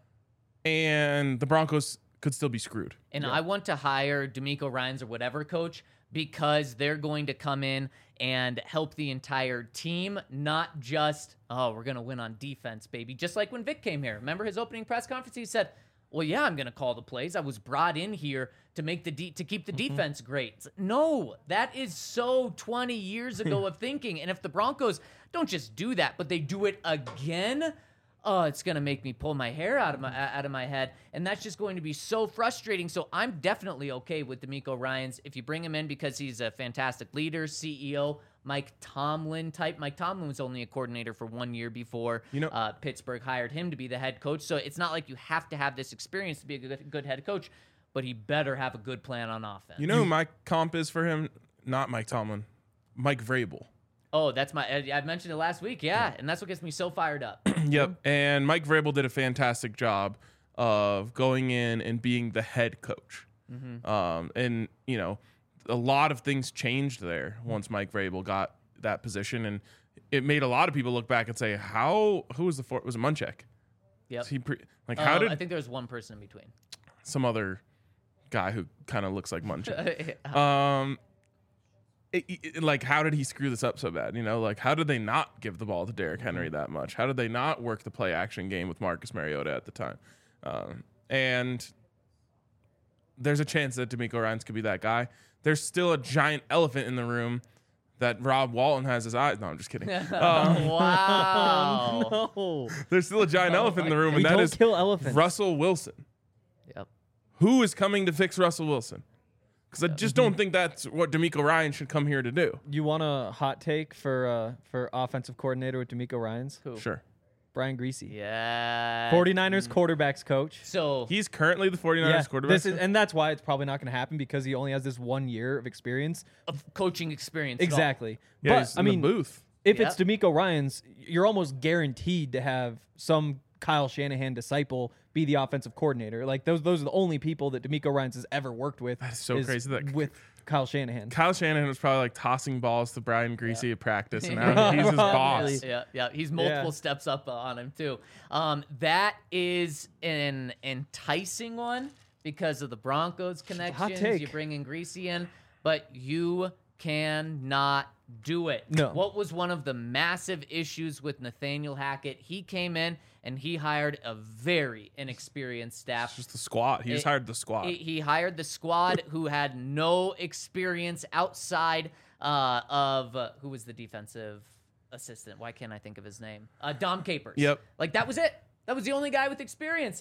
Speaker 2: And the Broncos could still be screwed.
Speaker 3: And I want to hire D'Amico Ryans or whatever coach because they're going to come in and help the entire team, not just, we're going to win on defense, baby. Just like when Vic came here. Remember his opening press conference? He said, well, yeah, I'm going to call the plays. I was brought in here to make to keep the defense great. It's like, no, that is so 20 years ago of thinking. And if the Broncos don't just do that, but they do it again, oh, it's going to make me pull my hair out of my head. And that's just going to be so frustrating. So I'm definitely okay with D'Amico Ryans. If you bring him in because he's a fantastic leader, CEO, Mike Tomlin type. Mike Tomlin was only a coordinator for 1 year before Pittsburgh hired him to be the head coach. So it's not like you have to have this experience to be a good head coach, but he better have a good plan on offense.
Speaker 2: You know who my comp is for him? Not Mike Tomlin. Mike Vrabel.
Speaker 3: Oh, that's I mentioned it last week. Yeah. And that's what gets me so fired up.
Speaker 2: Yep. And Mike Vrabel did a fantastic job of going in and being the head coach. And, a lot of things changed there once Mike Vrabel got that position. And it made a lot of people look back and say, who was was it Munchak?
Speaker 3: Yep.
Speaker 2: How did
Speaker 3: I think there was one person in between.
Speaker 2: some other guy who kind of looks like Munchak? How did he screw this up so bad? How did they not give the ball to Derrick Henry that much? How did they not work the play action game with Marcus Mariota at the time? And there's a chance that D'Amico Ryans could be that guy. There's still a giant elephant in the room that Rob Walton has his eyes. No, I'm just kidding.
Speaker 3: Wow.
Speaker 4: No.
Speaker 2: There's still a giant elephant in the room,
Speaker 4: We
Speaker 2: and that
Speaker 4: don't
Speaker 2: is
Speaker 4: kill elephants.
Speaker 2: Russell Wilson.
Speaker 3: Yep.
Speaker 2: Who is coming to fix Russell Wilson? Because I just don't think that's what D'Amico Ryans should come here to do.
Speaker 4: You want a hot take for offensive coordinator with D'Amico Ryans?
Speaker 3: Who?
Speaker 2: Sure.
Speaker 4: Brian Griese.
Speaker 3: Yeah.
Speaker 4: 49ers quarterbacks coach.
Speaker 3: So
Speaker 2: He's currently the 49ers quarterback.
Speaker 4: And that's why it's probably not going to happen because he only has this 1 year of experience.
Speaker 3: of coaching experience. at all.
Speaker 4: Exactly.
Speaker 2: Yeah,
Speaker 4: but
Speaker 2: he's in the booth.
Speaker 4: if
Speaker 3: Yep.
Speaker 4: it's D'Amico Ryans, you're almost guaranteed to have some Kyle Shanahan disciple be the offensive coordinator. Like those are the only people that D'Amico Ryans has ever worked with.
Speaker 2: That is so crazy that-
Speaker 4: with Kyle Shanahan.
Speaker 2: Kyle Shanahan was probably like tossing balls to Brian Griese at practice, and now he's his boss.
Speaker 3: Yeah. He's multiple
Speaker 4: Yeah.
Speaker 3: steps up on him too. That is an enticing one because of the Broncos connections.
Speaker 4: take.
Speaker 3: You bring in Greasy in, but you cannot do it.
Speaker 4: No.
Speaker 3: What was one of the massive issues with Nathaniel Hackett? He came in and he hired a very inexperienced staff.
Speaker 2: Just the squad. He just hired the squad.
Speaker 3: He hired the squad who had no experience outside of who was the defensive assistant? Why can't I think of his name? Dom Capers.
Speaker 2: Yep.
Speaker 3: Like, that was it. That was the only guy with experience.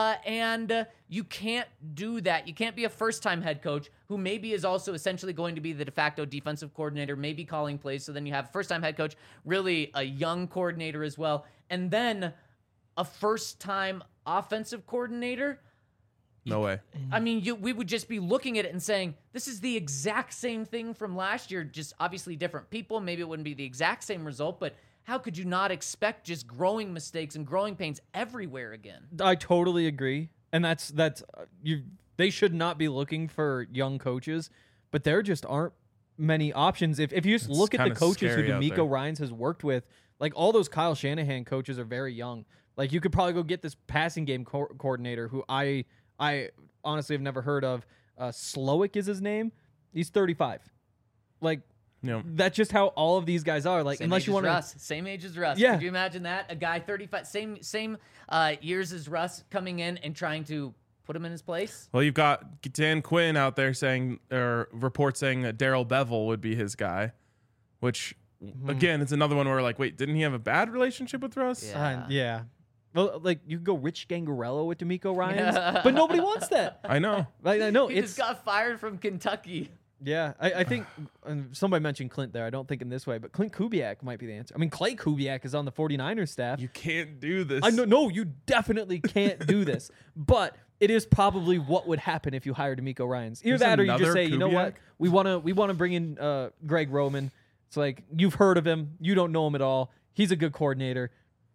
Speaker 3: And you can't do that. You can't be a first-time head coach who maybe is also essentially going to be the de facto defensive coordinator, maybe calling plays. So then you have a first-time head coach, really a young coordinator as well, and then a first-time offensive coordinator.
Speaker 2: No way.
Speaker 3: I mean, we would just be looking at it and saying, this is the exact same thing from last year, just obviously different people. Maybe it wouldn't be the exact same result, but how could you not expect just growing mistakes and growing pains everywhere again?
Speaker 4: I totally agree, and that's you. They should not be looking for young coaches, but there just aren't many options. If you just look at the
Speaker 2: kinda
Speaker 4: coaches who
Speaker 2: scary out
Speaker 4: D'Amico
Speaker 2: there.
Speaker 4: Ryans has worked with, like all those Kyle Shanahan coaches are very young. Like you could probably go get this passing game coordinator who I honestly have never heard of. Slowick is his name. He's 35. Like.
Speaker 2: Yeah.
Speaker 4: That's just how all of these guys are. Like,
Speaker 3: Same
Speaker 4: unless
Speaker 3: age
Speaker 4: you
Speaker 3: as
Speaker 4: want to,
Speaker 3: Russ. Same age as Russ.
Speaker 4: Yeah.
Speaker 3: Could you imagine that? A guy 35, same years as Russ coming in and trying to put him in his place?
Speaker 2: Well, you've got Dan Quinn out there saying, or reports saying that Darrell Bevel would be his guy, which, again, it's another one where, like, wait, didn't he have a bad relationship with Russ?
Speaker 3: Yeah.
Speaker 4: yeah. Well, like you could go Rich Gangarello with D'Amico Ryans, but nobody wants that.
Speaker 2: I know.
Speaker 4: Like, I know
Speaker 3: He
Speaker 4: it's
Speaker 3: just got fired from Kentucky.
Speaker 4: yeah. I think somebody mentioned Clint there. I don't think in this way, but Clint Kubiak might be the answer. I mean, Clay Kubiak is on the 49ers staff.
Speaker 2: You can't do this.
Speaker 4: I know, no, you definitely can't do this, but it is probably what would happen if you hired D'Amico Ryans. Either
Speaker 2: There's
Speaker 4: that, or you
Speaker 2: another
Speaker 4: just say, you know what,
Speaker 2: Kubiak?
Speaker 4: we want to bring in Greg Roman. It's like you've heard of him, you don't know him at all. He's a good coordinator.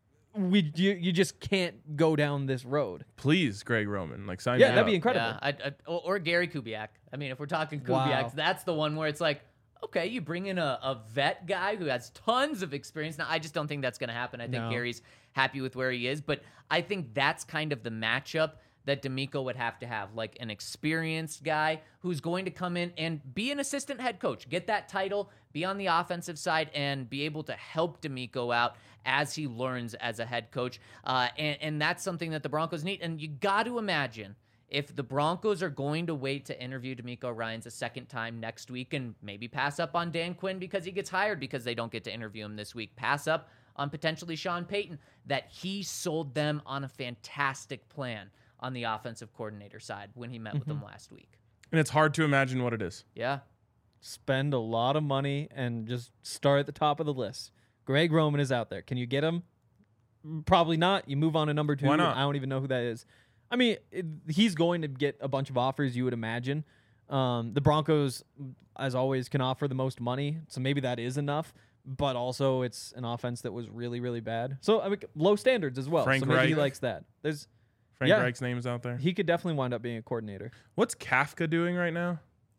Speaker 4: You just can't go down this road.
Speaker 2: Please, Greg Roman. Like, sign
Speaker 4: Yeah,
Speaker 2: me
Speaker 4: that'd
Speaker 2: up.
Speaker 4: be incredible.
Speaker 3: Yeah, or Gary Kubiak. I mean, if we're talking Kubiaks,
Speaker 4: Wow.
Speaker 3: that's the one where it's like, okay, you bring in a vet guy who has tons of experience. Now, I just don't think that's going to happen. I think
Speaker 4: No.
Speaker 3: Gary's happy with where he is, but I think that's kind of the matchup that D'Amico would have to have, like an experienced guy who's going to come in and be an assistant head coach, get that title, be on the offensive side, and be able to help D'Amico out as he learns as a head coach. And that's something that the Broncos need. And you got to imagine if the Broncos are going to wait to interview D'Amico Ryans a second time next week and maybe pass up on Dan Quinn because he gets hired because they don't get to interview him this week, pass up on potentially Sean Payton, that he sold them on a fantastic plan on the offensive coordinator side when he met with them last week.
Speaker 2: And it's hard to imagine what it is.
Speaker 3: Yeah.
Speaker 4: Spend a lot of money and just start at the top of the list. Greg Roman is out there. Can you get him? Probably not. You move on to number 2.
Speaker 2: Why not?
Speaker 4: I don't even know who that is. I mean, he's going to get a bunch of offers, you would imagine. The Broncos, as always, can offer the most money, so maybe that is enough. But also, it's an offense that was really, really bad. So, I mean, low standards as well.
Speaker 2: Frank
Speaker 4: so maybe he
Speaker 2: Reich.
Speaker 4: likes that.
Speaker 2: Frank
Speaker 4: Yeah.
Speaker 2: Reich's name is out there.
Speaker 4: He could definitely wind up being a coordinator.
Speaker 2: What's Kafka doing right now?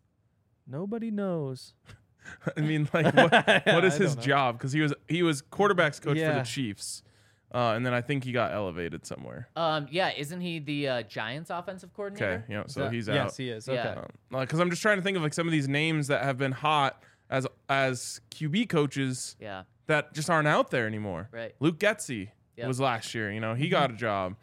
Speaker 4: Nobody knows.
Speaker 2: I mean, like, what is
Speaker 4: I
Speaker 2: his
Speaker 4: don't know.
Speaker 2: job? Because he was quarterbacks coach for
Speaker 4: Yeah.
Speaker 2: the Chiefs, and then I think he got elevated somewhere.
Speaker 3: Yeah, isn't he the Giants offensive coordinator?
Speaker 2: Okay, yeah, so he's out.
Speaker 4: Yes, he is. Okay.
Speaker 3: Yeah.
Speaker 2: Because I'm just trying to think of like some of these names that have been hot as QB coaches
Speaker 3: Yeah.
Speaker 2: that just aren't out there anymore.
Speaker 3: Right.
Speaker 2: Luke Getsy
Speaker 3: Yep.
Speaker 2: was last year. You know, he got a job.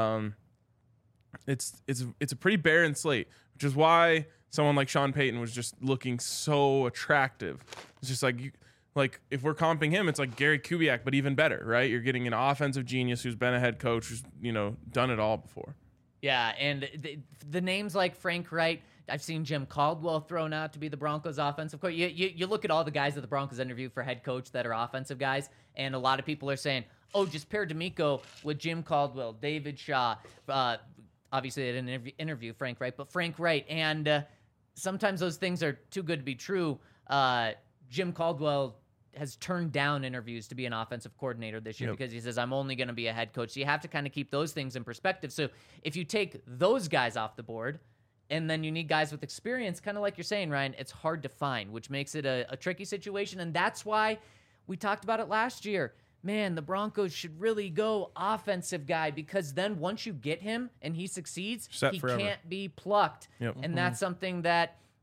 Speaker 2: It's a pretty barren slate, which is why someone like Sean Payton was just looking so attractive. It's just like if we're comping him, it's like Gary Kubiak, but even better, right? You're getting an offensive genius who's been a head coach, who's done it all before.
Speaker 3: Yeah, and the names like Frank Reich, I've seen Jim Caldwell thrown out to be the Broncos offensive coach. You look at all the guys that the Broncos interview for head coach that are offensive guys, and a lot of people are saying, oh, just pair D'Amico with Jim Caldwell, David Shaw. Obviously, they didn't interview Frank Reich, but Frank Reich. And sometimes those things are too good to be true. Jim Caldwell has turned down interviews to be an offensive coordinator this year because he says, I'm only going to be a head coach. So you have to kind of keep those things in perspective. So if you take those guys off the board and then you need guys with experience, kind of like you're saying, Ryan, it's hard to find, which makes it a tricky situation. And that's why we talked about it last year. Man, the Broncos should really go offensive guy because then once you get him and he succeeds,
Speaker 2: Set
Speaker 3: he
Speaker 2: forever.
Speaker 3: can't be plucked.
Speaker 2: Yep.
Speaker 3: And that's something that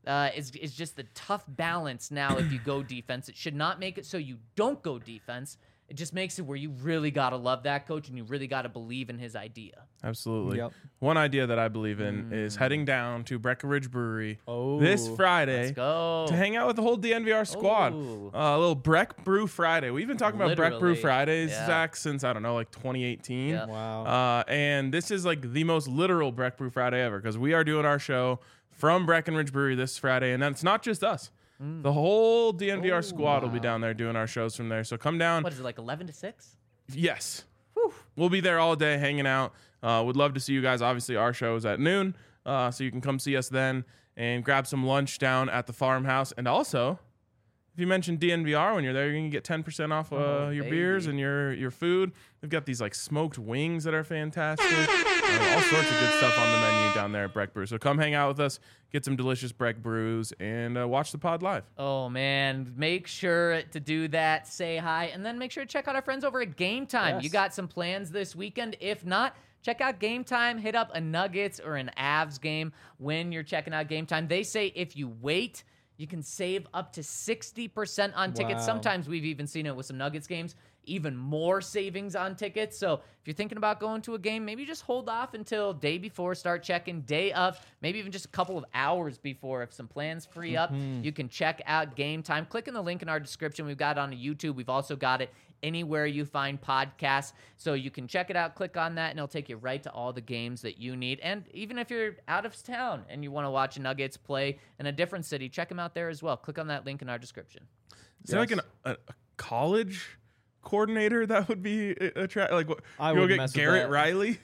Speaker 3: is just the tough balance now. If you go defense, it should not make it so you don't go defense. It just makes it where you really got to love that coach and you really got to believe in his idea.
Speaker 2: Absolutely.
Speaker 4: Yep.
Speaker 2: One idea that I believe in is heading down to Breckenridge Brewery
Speaker 4: Oh,
Speaker 2: this Friday
Speaker 3: Let's go.
Speaker 2: to hang out with the whole DNVR squad.
Speaker 3: Ooh.
Speaker 2: A little Breck Brew Friday. We've been talking about Breck Brew
Speaker 3: Literally.
Speaker 2: Fridays,
Speaker 3: Yeah.
Speaker 2: Zach, since, I don't know, like 2018.
Speaker 3: Yeah.
Speaker 4: Wow.
Speaker 2: And this is like the most literal Breck Brew Friday ever because we are doing our show from Breckenridge Brewery this Friday. And that's not just us. The whole DNVR squad will be down there doing our shows from there. So come down.
Speaker 3: What is it, like 11 to 6?
Speaker 2: Yes. We'll be there all day hanging out. Would love to see you guys. Obviously, our show is at noon, so you can come see us then and grab some lunch down at the farmhouse. And also, if you mention DNVR when you're there, you're going to get 10% off your beers and your food. They've got these like smoked wings that are fantastic. All sorts of good stuff on the menu down there at Breck Brew. So come hang out with us, get some delicious Breck Brews, and watch the pod live.
Speaker 3: Oh, man. Make sure to do that. Say hi. And then make sure to check out our friends over at Game Time.
Speaker 4: Yes.
Speaker 3: You got some plans this weekend. If not, check out Game Time. Hit up a Nuggets or an Avs game when you're checking out Game Time. They say if you wait, you can save up to 60% on tickets.
Speaker 4: Wow.
Speaker 3: Sometimes we've even seen it with some Nuggets games. Even more savings on tickets. So if you're thinking about going to a game, maybe just hold off until day before, start checking day of, maybe even just a couple of hours before. If some plans free up, you can check out Game Time. Click on the link in our description. We've got it on YouTube. We've also got it anywhere you find podcasts. So you can check it out, click on that, and it'll take you right to all the games that you need. And even if you're out of town and you want to watch Nuggets play in a different city, check them out there as well. Click on that link in our description.
Speaker 2: Is there like a college coordinator that would be attractive? Like, what,
Speaker 4: I
Speaker 2: you go
Speaker 4: wouldn't
Speaker 2: get
Speaker 4: mess with
Speaker 2: Garrett
Speaker 4: that.
Speaker 2: Riley?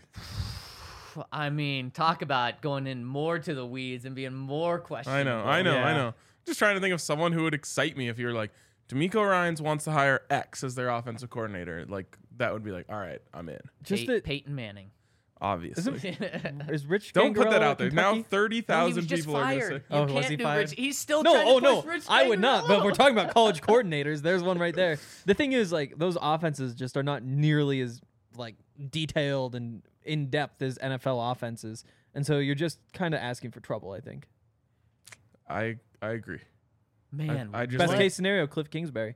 Speaker 3: I mean, talk about going in more to the weeds and being more questionable.
Speaker 2: I know.
Speaker 4: Yeah.
Speaker 2: Just trying to think of someone who would excite me if you're like, D'Amico Ryans wants to hire X as their offensive coordinator. Like, that would be like, all right, I'm in.
Speaker 4: Just that
Speaker 3: Peyton Manning.
Speaker 2: Obviously.
Speaker 4: is Rich.
Speaker 2: Don't put that
Speaker 4: Gangarella
Speaker 2: out there. Now
Speaker 4: Kentucky?
Speaker 2: 30,000
Speaker 3: just
Speaker 2: people are going to say.
Speaker 3: fired.
Speaker 4: Oh,
Speaker 3: You
Speaker 4: was
Speaker 3: can't
Speaker 4: he
Speaker 3: do
Speaker 4: fired?
Speaker 3: Rich. He's still
Speaker 4: No,
Speaker 3: trying
Speaker 4: oh
Speaker 3: to
Speaker 4: no,
Speaker 3: push Rich
Speaker 4: I would not. But
Speaker 3: Gangarella.
Speaker 4: we're talking about college coordinators. There's one right there. The thing is, like, those offenses just are not nearly as like detailed and in depth as NFL offenses, and so you're just kind of asking for trouble. I think.
Speaker 2: I agree.
Speaker 3: Man,
Speaker 2: I just
Speaker 4: Best
Speaker 2: like-
Speaker 4: case scenario, Cliff Kingsbury.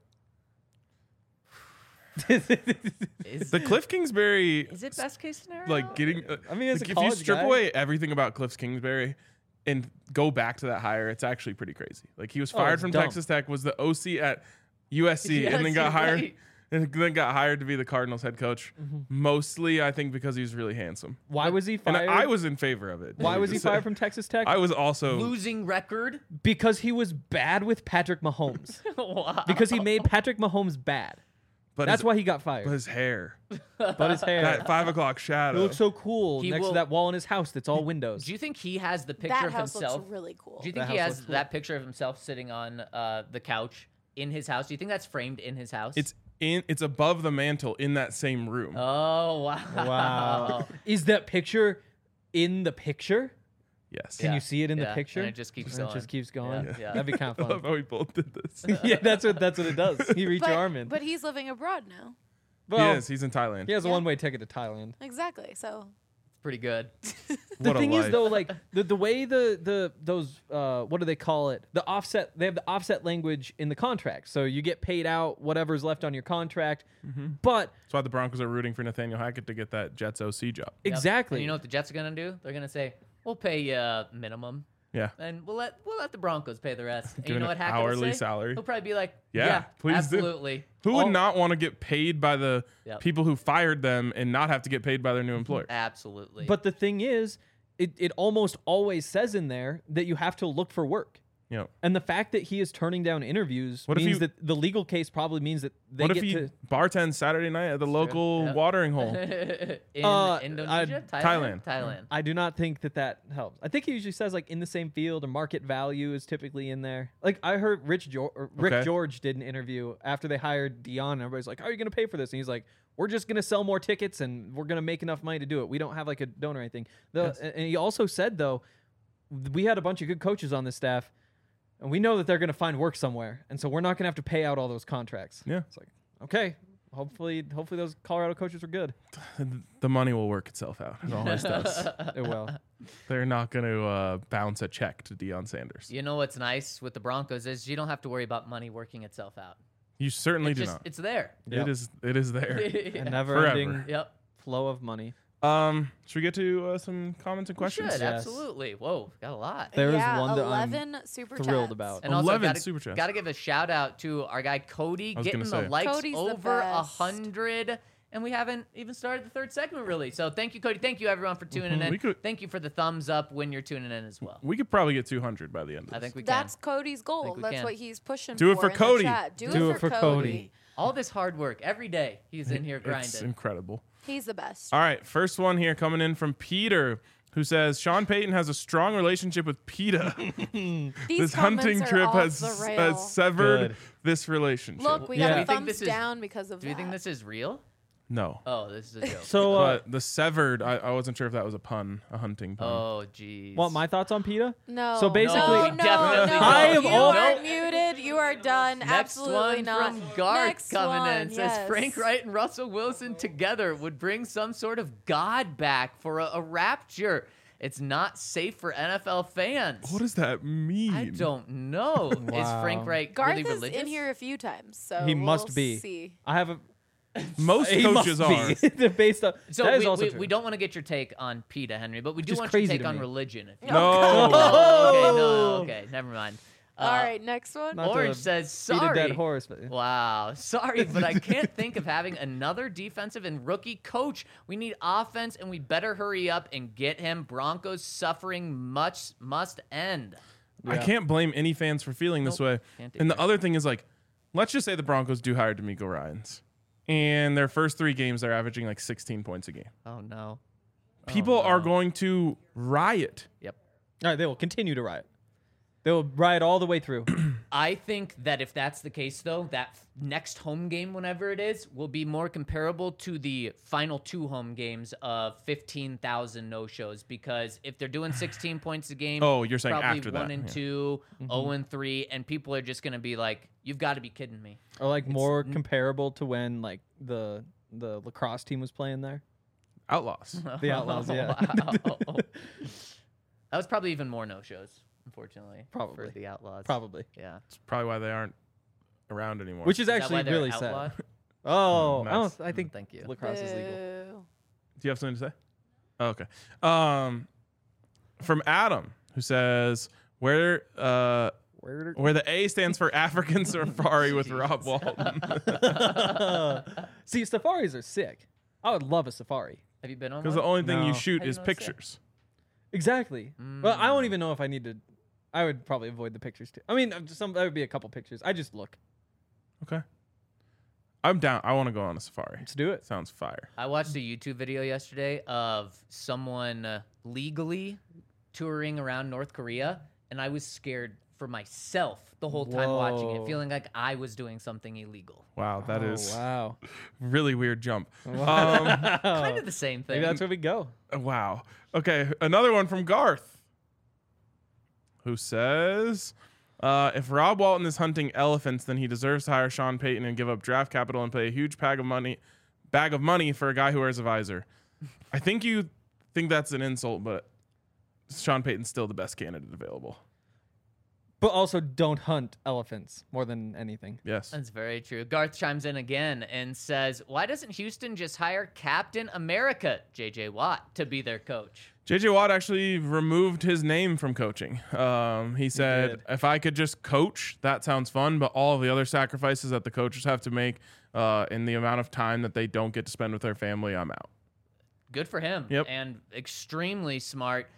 Speaker 3: is,
Speaker 2: The Cliff Kingsbury,
Speaker 3: is it best case scenario?
Speaker 2: like getting.
Speaker 4: I mean, as
Speaker 2: like,
Speaker 4: a
Speaker 2: if you
Speaker 4: college
Speaker 2: strip
Speaker 4: guy-
Speaker 2: away everything about Cliff Kingsbury and go back to that hire, it's actually pretty crazy. Like, he was
Speaker 4: Oh,
Speaker 2: fired
Speaker 4: it's
Speaker 2: from
Speaker 4: dumb.
Speaker 2: Texas Tech, was the OC at USC,
Speaker 3: Yes,
Speaker 2: and then got
Speaker 3: you're
Speaker 2: hired.
Speaker 3: right.
Speaker 2: And then got hired to be the Cardinals head coach, mostly I think because he was really handsome.
Speaker 4: Why was he
Speaker 2: And
Speaker 4: fired?
Speaker 2: I was in favor of it.
Speaker 4: Why was he fired from Texas Tech?
Speaker 2: I was also
Speaker 3: losing record.
Speaker 4: Because he was bad with Patrick Mahomes.
Speaker 3: Wow.
Speaker 4: Because he made Patrick Mahomes bad.
Speaker 2: but
Speaker 4: That's
Speaker 2: his,
Speaker 4: why he got
Speaker 2: but
Speaker 4: fired.
Speaker 2: his hair,
Speaker 4: But his hair.
Speaker 2: that 5 o'clock
Speaker 4: He
Speaker 2: shadow.
Speaker 4: looks so cool
Speaker 3: He
Speaker 4: next
Speaker 3: will-
Speaker 4: to that wall in his house that's all windows.
Speaker 3: Do you think he has the picture
Speaker 5: That
Speaker 3: of
Speaker 5: house
Speaker 3: himself?
Speaker 5: looks really cool.
Speaker 3: Do you think
Speaker 4: That
Speaker 3: he
Speaker 4: house
Speaker 3: has
Speaker 4: looks cool.
Speaker 3: that picture of himself sitting on the couch in his house? Do you think that's framed in his house?
Speaker 2: It's above the mantle in that same room.
Speaker 3: Oh wow!
Speaker 4: Wow. Is that picture in the picture?
Speaker 2: Yes.
Speaker 4: Can you see it in the
Speaker 3: Yeah,
Speaker 4: picture?
Speaker 3: and it just keeps
Speaker 4: And
Speaker 3: going.
Speaker 4: It just keeps going.
Speaker 3: Yeah, yeah.
Speaker 4: That'd be kind
Speaker 2: I
Speaker 4: of
Speaker 2: love
Speaker 4: fun.
Speaker 2: how we both did this.
Speaker 4: Yeah, that's what it does. You reach
Speaker 5: but,
Speaker 4: your arm in.
Speaker 5: but he's living abroad now.
Speaker 4: Well,
Speaker 2: Yes, he's in Thailand.
Speaker 4: he has a
Speaker 5: Yeah.
Speaker 4: one-way ticket to Thailand.
Speaker 5: Exactly. So
Speaker 3: It's pretty good.
Speaker 4: The
Speaker 2: What a
Speaker 4: thing is
Speaker 2: life.
Speaker 4: though, like the way those what do they call it? The offset. They have the offset language in the contract, so you get paid out whatever's left on your contract. But
Speaker 2: That's why the Broncos are rooting for Nathaniel Hackett to get that Jets OC job.
Speaker 3: Yep.
Speaker 4: exactly.
Speaker 3: And you know what the Jets are gonna do? They're gonna say, "We'll pay you minimum,
Speaker 2: Yeah.
Speaker 3: and we'll let the Broncos pay the rest." And you
Speaker 2: Doing
Speaker 3: know
Speaker 2: an
Speaker 3: what Hackett will
Speaker 2: hourly
Speaker 3: say?
Speaker 2: salary.
Speaker 3: He'll probably be like,
Speaker 2: Yeah,
Speaker 3: "Yeah,
Speaker 2: please do."
Speaker 3: absolutely."
Speaker 2: Who would
Speaker 4: Oh.
Speaker 2: not want to get paid by the
Speaker 3: Yep.
Speaker 2: people who fired them and not have to get paid by their new employer?
Speaker 3: Absolutely.
Speaker 4: But the thing is, it almost always says in there that you have to look for work.
Speaker 2: You know,
Speaker 4: And the fact that he is turning down interviews
Speaker 2: What if
Speaker 4: means
Speaker 2: you-
Speaker 4: that the legal case probably means that they
Speaker 2: what
Speaker 4: get
Speaker 2: if he
Speaker 4: to
Speaker 2: bartends Saturday night at the local
Speaker 3: Yep.
Speaker 2: watering hole?
Speaker 3: in Indonesia,
Speaker 2: Thailand.
Speaker 3: Thailand.
Speaker 4: I do not think that helps. I think he usually says like in the same field or market value is typically in there. Like I heard Rick
Speaker 2: Okay.
Speaker 4: George did an interview after they hired Dion. And everybody's like, "How are you going to pay for this?" And he's like, "We're just going to sell more tickets and we're going to make enough money to do it. We don't have like a donor or anything." And he also said though, we had a bunch of good coaches on this staff, and we know that they're going to find work somewhere, and so we're not going to have to pay out all those contracts.
Speaker 2: Yeah.
Speaker 4: It's like, okay, hopefully those Colorado coaches are good.
Speaker 2: The money will work itself out. It always does.
Speaker 4: It will.
Speaker 2: They're not going to bounce a check to Deion Sanders.
Speaker 3: You know what's nice with the Broncos is you don't have to worry about money working itself out.
Speaker 2: You certainly
Speaker 3: It's
Speaker 2: do
Speaker 3: just
Speaker 2: not.
Speaker 3: it's there.
Speaker 4: Yep.
Speaker 2: It is there.
Speaker 4: A never-ending
Speaker 2: Forever.
Speaker 3: Yep.
Speaker 4: flow of money.
Speaker 2: Should we get to some comments and questions?
Speaker 3: Should,
Speaker 4: Yes.
Speaker 3: absolutely. Whoa, got a lot.
Speaker 4: There is
Speaker 5: yeah,
Speaker 4: one that I'm
Speaker 5: 11 super
Speaker 4: thrilled
Speaker 5: chats.
Speaker 4: about.
Speaker 3: And also
Speaker 2: 11 super chats.
Speaker 3: got to give a shout out to our guy Cody
Speaker 2: I was
Speaker 3: getting
Speaker 2: gonna
Speaker 3: the
Speaker 2: say.
Speaker 3: likes
Speaker 5: Cody's the
Speaker 3: over
Speaker 5: best.
Speaker 3: 100, and we haven't even started the third segment really. So thank you, Cody. Thank you everyone for tuning in.
Speaker 2: We could-
Speaker 3: Thank you for the thumbs up when you're tuning in as well.
Speaker 2: We could probably get 200 by the end of this.
Speaker 3: I think we can.
Speaker 5: That's Cody's goal.
Speaker 3: we
Speaker 5: That's
Speaker 3: can.
Speaker 5: what he's pushing
Speaker 2: Do it for
Speaker 5: in the
Speaker 2: Cody.
Speaker 5: chat.
Speaker 4: Do it for Cody.
Speaker 3: All this hard work every day. He's in here
Speaker 2: It's
Speaker 3: grinding.
Speaker 2: incredible.
Speaker 5: He's the best.
Speaker 2: All right, first one here coming in from Peter, who says Sean Payton has a strong relationship with PETA.
Speaker 5: These
Speaker 2: This
Speaker 5: comments
Speaker 2: hunting
Speaker 5: are
Speaker 2: trip
Speaker 5: off
Speaker 2: has,
Speaker 5: the
Speaker 2: has
Speaker 5: rails.
Speaker 2: severed
Speaker 4: Good.
Speaker 2: this relationship.
Speaker 5: Look, we
Speaker 4: Yeah.
Speaker 5: got
Speaker 4: Do
Speaker 5: a
Speaker 4: you
Speaker 3: think
Speaker 5: thumbs
Speaker 3: this is-
Speaker 5: down because of
Speaker 3: Do you
Speaker 5: that.
Speaker 3: think this is real?
Speaker 2: No.
Speaker 3: Oh, this is a joke.
Speaker 4: So,
Speaker 2: But the severed, I wasn't sure if that was a pun, a hunting pun.
Speaker 3: Oh, jeez.
Speaker 4: want my thoughts on PETA?
Speaker 5: No.
Speaker 4: So basically-
Speaker 3: No, we
Speaker 5: no,
Speaker 3: definitely
Speaker 5: no.
Speaker 3: don't.
Speaker 4: I am
Speaker 5: you
Speaker 4: all-
Speaker 5: are muted. You are done.
Speaker 3: Next
Speaker 5: Absolutely
Speaker 3: one
Speaker 5: not.
Speaker 3: from Garth
Speaker 5: Next
Speaker 3: coming
Speaker 5: one,
Speaker 3: in says
Speaker 5: yes.
Speaker 3: Frank Wright and Russell Wilson together would bring some sort of God back for a rapture. It's not safe for NFL fans.
Speaker 2: What does that mean?
Speaker 3: I don't know. Is
Speaker 4: Wow.
Speaker 3: Frank Wright
Speaker 5: Garth
Speaker 3: really
Speaker 5: is
Speaker 3: religious?
Speaker 5: in here a few times, so
Speaker 4: He
Speaker 5: we'll
Speaker 4: must be.
Speaker 5: See.
Speaker 4: I have a.
Speaker 2: Most
Speaker 4: He
Speaker 2: coaches are.
Speaker 4: must be. Based on
Speaker 3: So
Speaker 4: that is also true.
Speaker 3: we don't want to get your take on PETA, Henry, but we do
Speaker 4: Just
Speaker 3: want your
Speaker 4: crazy
Speaker 3: take
Speaker 4: to
Speaker 3: on
Speaker 4: me.
Speaker 3: religion. If you
Speaker 2: No.
Speaker 3: Oh, okay, never mind.
Speaker 5: All right, next one.
Speaker 4: Not to
Speaker 3: Orange says,
Speaker 4: beat a
Speaker 3: sorry.
Speaker 4: dead horse. But
Speaker 3: Wow. Sorry, but I can't think of having another defensive and rookie coach. We need offense, and we better hurry up and get him. Broncos suffering must end.
Speaker 2: I
Speaker 4: Yeah.
Speaker 2: can't blame any fans for feeling this way.
Speaker 3: Can't
Speaker 2: And the
Speaker 3: either.
Speaker 2: other thing is, like, let's just say the Broncos do hire D'Amico Ryans. And their first 3 games, they're averaging like 16 points a game.
Speaker 3: Oh, no.
Speaker 2: People are going to riot.
Speaker 3: Yep.
Speaker 4: all right, they will continue to riot. They will riot all the way through.
Speaker 3: I think that if that's the case, though, that next home game, whenever it is, will be more comparable to the final 2 home games of 15,000 no-shows. Because if they're doing 16 points a game,
Speaker 2: Oh, you're saying
Speaker 3: probably
Speaker 2: after
Speaker 3: 1
Speaker 2: that,
Speaker 3: and
Speaker 2: yeah.
Speaker 3: 2, 0 and 3, and people are just going to be like, "You've got to be kidding me."
Speaker 4: Or like more comparable to when like the lacrosse team was playing there.
Speaker 2: Outlaws.
Speaker 4: The Outlaws, yeah.
Speaker 3: Wow. That was probably even more no-shows, unfortunately.
Speaker 4: Probably.
Speaker 3: For the Outlaws.
Speaker 4: Probably.
Speaker 3: Yeah.
Speaker 2: It's probably why they aren't around anymore.
Speaker 4: Which is
Speaker 3: Is that why
Speaker 4: actually
Speaker 3: they're
Speaker 4: really
Speaker 3: outlawed?
Speaker 4: sad. Oh,
Speaker 2: Nice.
Speaker 4: I think
Speaker 3: Thank you.
Speaker 4: lacrosse is legal.
Speaker 5: Boo.
Speaker 2: Do you have something to say? Oh, okay. From Adam, who says, where the A stands for African Safari with Rob Walton.
Speaker 4: See, safaris are sick. I would love a safari.
Speaker 3: Have you been on
Speaker 2: Because
Speaker 3: one?
Speaker 2: the only thing
Speaker 4: No.
Speaker 2: you shoot
Speaker 3: How do you
Speaker 2: is
Speaker 3: know it's sick?
Speaker 2: pictures.
Speaker 4: Exactly. Well, I don't even know if I need to. I would probably avoid the pictures too. I mean, there would be a couple pictures. I just look.
Speaker 2: Okay. I'm down. I want to go on a safari.
Speaker 4: Let's do it.
Speaker 2: Sounds fire.
Speaker 3: I watched a YouTube video yesterday of someone legally touring around North Korea, and I was scared for myself the whole time watching it,
Speaker 4: Whoa.
Speaker 3: feeling like I was doing something illegal.
Speaker 2: Wow, that is
Speaker 4: Wow.
Speaker 2: really weird jump.
Speaker 3: Kind of the same thing.
Speaker 4: Maybe that's where we go.
Speaker 2: Wow. Okay, another one from Garth, who says, if Rob Walton is hunting elephants, then he deserves to hire Sean Payton and give up draft capital and pay a huge bag of money for a guy who wears a visor. I think you think that's an insult, but Sean Payton's still the best candidate available.
Speaker 4: But also, don't hunt elephants more than anything.
Speaker 2: Yes.
Speaker 3: That's very true. Garth chimes in again and says, why doesn't Houston just hire Captain America, J.J. Watt, to be their coach?
Speaker 2: J.J. Watt actually removed his name from coaching. He said,
Speaker 4: did.
Speaker 2: if I could just coach, that sounds fun, but all of the other sacrifices that the coaches have to make in the amount of time that they don't get to spend with their family, I'm out.
Speaker 3: Good for him.
Speaker 2: Yep.
Speaker 3: And extremely smart.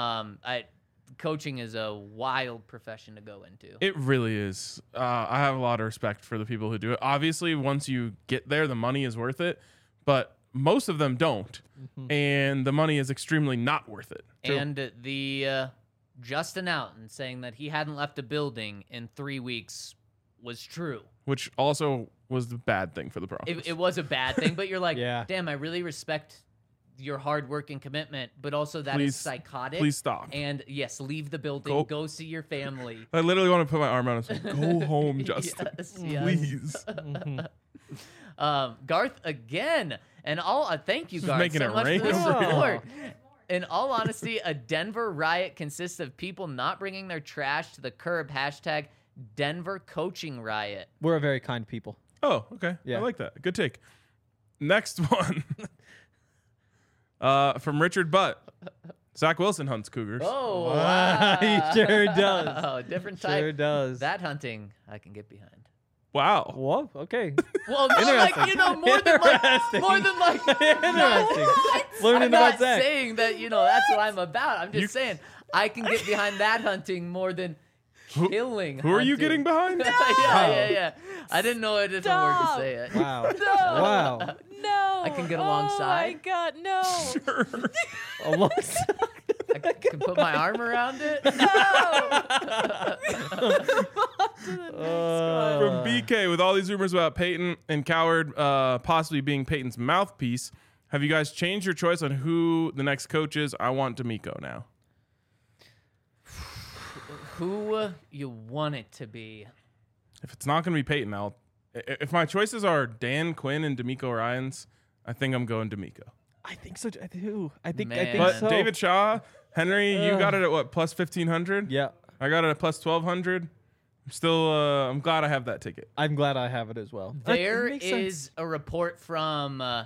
Speaker 3: Coaching is a wild profession to go into.
Speaker 2: It really is. I have a lot of respect for the people who do it. Obviously, once you get there, the money is worth it, but most of them don't, and the money is extremely not worth it.
Speaker 3: And the Justin Alton saying that he hadn't left a building in 3 weeks was true.
Speaker 2: Which also was the bad thing for the Broncos.
Speaker 3: It was a bad thing, but you're like,
Speaker 4: Yeah.
Speaker 3: damn, I really respect your hard work and commitment, but also that is
Speaker 2: Please-
Speaker 3: psychotic.
Speaker 2: please stop.
Speaker 3: And yes, leave the building,
Speaker 2: Go-
Speaker 3: go see your family.
Speaker 2: I literally want to put my arm around and say, "Go home, Justin,
Speaker 3: Yes, yes.
Speaker 2: please."
Speaker 3: Garth again, and all thank you,
Speaker 2: Just
Speaker 3: Garth,
Speaker 2: making
Speaker 3: so
Speaker 2: it
Speaker 3: much
Speaker 2: rain
Speaker 3: for the
Speaker 2: over here.
Speaker 3: support. In all honesty, a Denver riot consists of people not bringing their trash to the curb. Hashtag Denver coaching riot.
Speaker 4: We're a very kind people.
Speaker 2: Oh, okay.
Speaker 4: Yeah.
Speaker 2: I like that. Good take. Next one. From Richard Butt. Zach Wilson hunts cougars.
Speaker 3: Oh, wow.
Speaker 4: He sure does.
Speaker 3: Oh, different type.
Speaker 4: Sure does.
Speaker 3: That hunting, I can get behind.
Speaker 2: Wow.
Speaker 4: Whoa. Okay.
Speaker 3: Well, no, like, more than
Speaker 4: Interesting. Learning
Speaker 3: I'm
Speaker 4: about
Speaker 3: not
Speaker 4: Zach.
Speaker 3: saying that, that's what I'm about. I'm just saying I can get behind that hunting more than killing.
Speaker 2: Who are you
Speaker 3: hunting.
Speaker 2: getting behind?
Speaker 3: yeah. I didn't know a different word to
Speaker 5: Stop.
Speaker 3: say it.
Speaker 4: Wow.
Speaker 5: No.
Speaker 4: Wow.
Speaker 5: No.
Speaker 3: I can get alongside.
Speaker 5: Oh my God, no.
Speaker 4: Alongside.
Speaker 3: I can put my arm around it.
Speaker 2: From BK, with all these rumors about Peyton and Coward possibly being Peyton's mouthpiece, have you guys changed your choice on who the next coach is? I want D'Amico now.
Speaker 3: Who you want it to be?
Speaker 2: If it's not going to be Peyton, if my choices are Dan Quinn and D'Amico Ryans, I think I'm going D'Amico.
Speaker 4: I think so. I do. I think
Speaker 3: Man.
Speaker 2: But
Speaker 4: so.
Speaker 2: David Shaw, Henry, you got it at what, plus 1,500?
Speaker 4: Yeah.
Speaker 2: I got it at plus 1,200. I'm still, I'm glad I have that ticket.
Speaker 4: I'm glad I have it as well.
Speaker 3: There
Speaker 4: It makes sense.
Speaker 3: is a report from I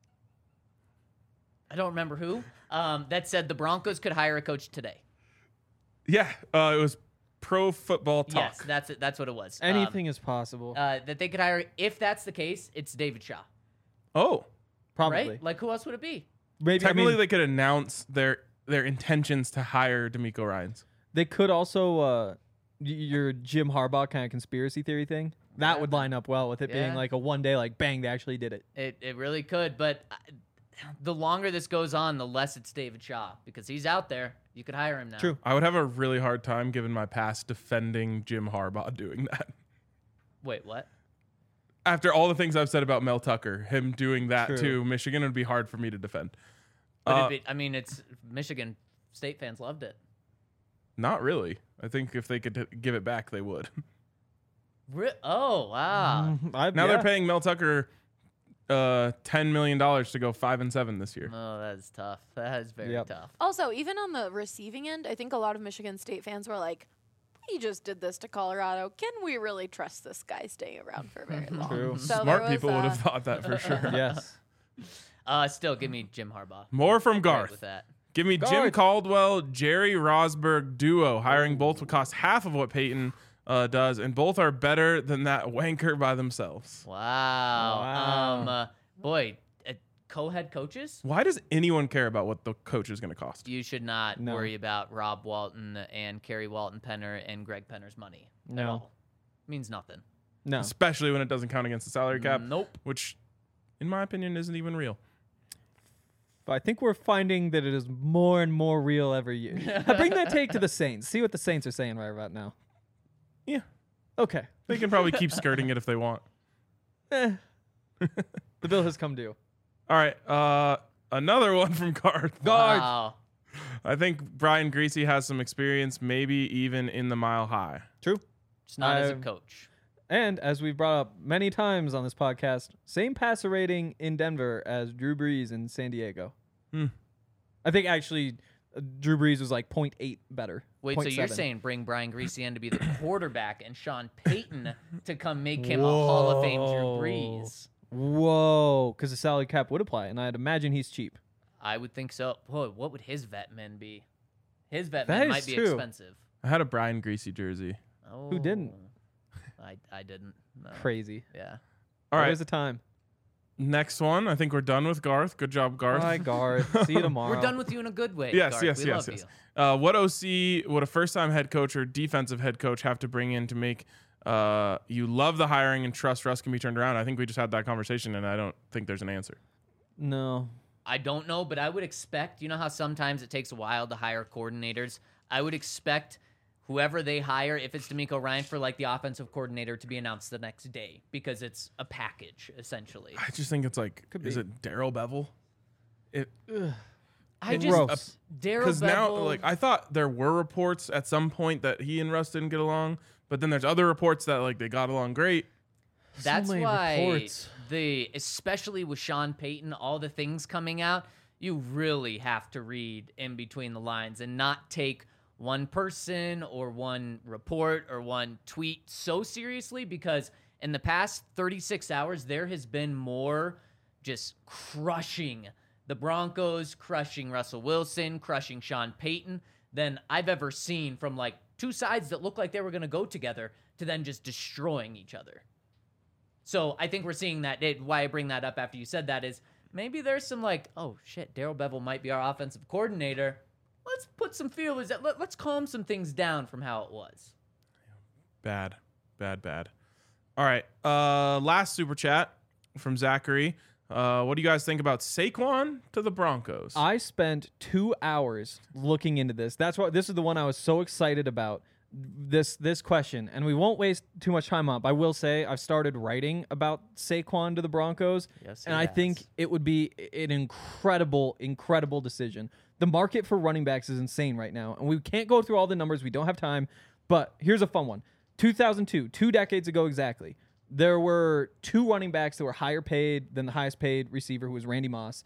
Speaker 3: don't remember who that said the Broncos could hire a coach today.
Speaker 2: Yeah, it was Pro Football Talk.
Speaker 3: Yes, that's it. That's what it was.
Speaker 4: Anything is possible.
Speaker 3: That they could hire. If that's the case, it's David Shaw,
Speaker 2: Oh,
Speaker 4: Probably.
Speaker 3: right? Like who else would it be?
Speaker 4: Maybe.
Speaker 2: technically
Speaker 4: I mean,
Speaker 2: they could announce their intentions to hire D'Amico Ryans.
Speaker 4: they could also your Jim Harbaugh kind of conspiracy theory thing. That
Speaker 3: Yeah.
Speaker 4: would line up well with it being
Speaker 3: Yeah.
Speaker 4: like a one day, like bang, they actually did it.
Speaker 3: It really could, but the longer this goes on, the less it's David Shaw because he's out there. You could hire him now.
Speaker 4: True.
Speaker 2: I would have a really hard time, given my past, defending Jim Harbaugh doing that.
Speaker 3: Wait, what?
Speaker 2: After all the things I've said about Mel Tucker, him doing that
Speaker 4: True.
Speaker 2: to Michigan would be hard for me to defend.
Speaker 3: But it's Michigan State fans loved it.
Speaker 2: Not really. I think if they could give it back, they would.
Speaker 3: Oh wow!
Speaker 2: Now they're paying Mel Tucker $10 million to go 5-7 this year.
Speaker 3: Oh, that's tough. That is very
Speaker 4: Yep.
Speaker 3: tough.
Speaker 5: Also, even on the receiving end, I think a lot of Michigan State fans were like, we just did this to Colorado. Can we really trust this guy staying around for very long?
Speaker 4: True.
Speaker 5: So
Speaker 2: Smart
Speaker 5: there was,
Speaker 2: people would have thought that for sure.
Speaker 4: Yes.
Speaker 3: Still, give me Jim Harbaugh.
Speaker 2: More from
Speaker 3: Right
Speaker 2: Garth.
Speaker 3: with that.
Speaker 2: Give me Jim
Speaker 4: Garth.
Speaker 2: Caldwell, Jerry Rosberg duo. Hiring both would cost half of what Peyton does, and both are better than that wanker by themselves.
Speaker 3: Wow.
Speaker 4: Wow.
Speaker 3: Boy, co-head coaches.
Speaker 2: Why does anyone care about what the coach is going to cost?
Speaker 3: You should not
Speaker 4: No.
Speaker 3: worry about Rob Walton and Kerry Walton Penner and Greg Penner's money at
Speaker 4: No.
Speaker 3: all. Means nothing.
Speaker 4: No.
Speaker 2: Especially when it doesn't count against the salary cap,
Speaker 3: Nope.
Speaker 2: which, in my opinion, isn't even real.
Speaker 4: But I think we're finding that it is more and more real every year. I bring that take to the Saints. See what the Saints are saying right about now.
Speaker 2: Yeah.
Speaker 4: Okay.
Speaker 2: They can probably keep skirting it if they want.
Speaker 4: The bill has come due.
Speaker 2: All right. Another one from Garth.
Speaker 3: Wow.
Speaker 2: I think Brian Greasy has some experience, maybe even in the Mile High.
Speaker 4: True.
Speaker 3: Just not as a
Speaker 4: I've-
Speaker 3: coach.
Speaker 4: And as we've brought up many times on this podcast, same passer rating in Denver as Drew Brees in San Diego. I think actually Drew Brees was like 0.8 better.
Speaker 3: Wait, so you're
Speaker 4: 0.7.
Speaker 3: saying bring Brian Greasy in to be the quarterback and Sean Payton to come make him a Hall of Fame Drew
Speaker 4: Whoa.
Speaker 3: Brees?
Speaker 4: Whoa, because the salary cap would apply, and I'd imagine he's cheap.
Speaker 3: I would think so. Boy, what would his vet men be? His vet
Speaker 4: That
Speaker 3: men
Speaker 4: is
Speaker 3: might be
Speaker 4: true.
Speaker 3: expensive.
Speaker 2: I had a Brian Greasy jersey.
Speaker 3: Oh,
Speaker 4: Who didn't?
Speaker 3: I didn't. No.
Speaker 4: Crazy.
Speaker 3: Yeah.
Speaker 2: All right.
Speaker 4: There's the time.
Speaker 2: Next one. I think we're done with Garth. Good job, Garth.
Speaker 4: Bye, Garth. See you tomorrow.
Speaker 3: We're done with you in a good way.
Speaker 2: Yes,
Speaker 3: Garth.
Speaker 2: yes,
Speaker 3: We
Speaker 2: yes,
Speaker 3: love
Speaker 2: yes.
Speaker 3: you.
Speaker 2: What OC would a first-time head coach or defensive head coach have to bring in to make you love the hiring and trust Russ can be turned around? I think we just had that conversation, and I don't think there's an answer.
Speaker 4: No.
Speaker 3: I don't know, but I would expect, you know how sometimes it takes a while to hire coordinators? I would expect whoever they hire, if it's D'Amico Ryan, for like the offensive coordinator to be announced the next day because it's a package, essentially.
Speaker 2: I just think it's like, is
Speaker 4: be.
Speaker 2: it Daryl Bevel?
Speaker 3: I
Speaker 4: Gross.
Speaker 3: just, Daryl
Speaker 2: Because now,
Speaker 3: Bevell-
Speaker 2: like, I thought there were reports at some point that he and Russ didn't get along, but then there's other reports that like they got along great.
Speaker 3: That's
Speaker 4: many
Speaker 3: why
Speaker 4: reports.
Speaker 3: especially with Sean Payton, all the things coming out, you really have to read in between the lines and not take one person or one report or one tweet so seriously, because in the past 36 hours, there has been more just crushing the Broncos, crushing Russell Wilson, crushing Sean Payton than I've ever seen from like two sides that look like they were going to go together to then just destroying each other. So I think we're seeing that. Why I bring that up after you said that is maybe there's some like, oh shit, Darrell Bevell might be our offensive coordinator. Let's put some feelers. Let's calm some things down from how it was.
Speaker 2: Bad. All right. Last super chat from Zachary. What do you guys think about Saquon to the Broncos?
Speaker 4: I spent 2 hours looking into this. This is the one I was so excited about. This question, and we won't waste too much time on it. I will say I've started writing about Saquon to the Broncos,
Speaker 3: Yes,
Speaker 4: and I think it would be an incredible decision. The market for running backs is insane right now, and we can't go through all the numbers. We don't have time, but here's a fun one. 2002, 2 decades ago exactly, there were 2 running backs that were higher paid than the highest paid receiver, who was Randy Moss.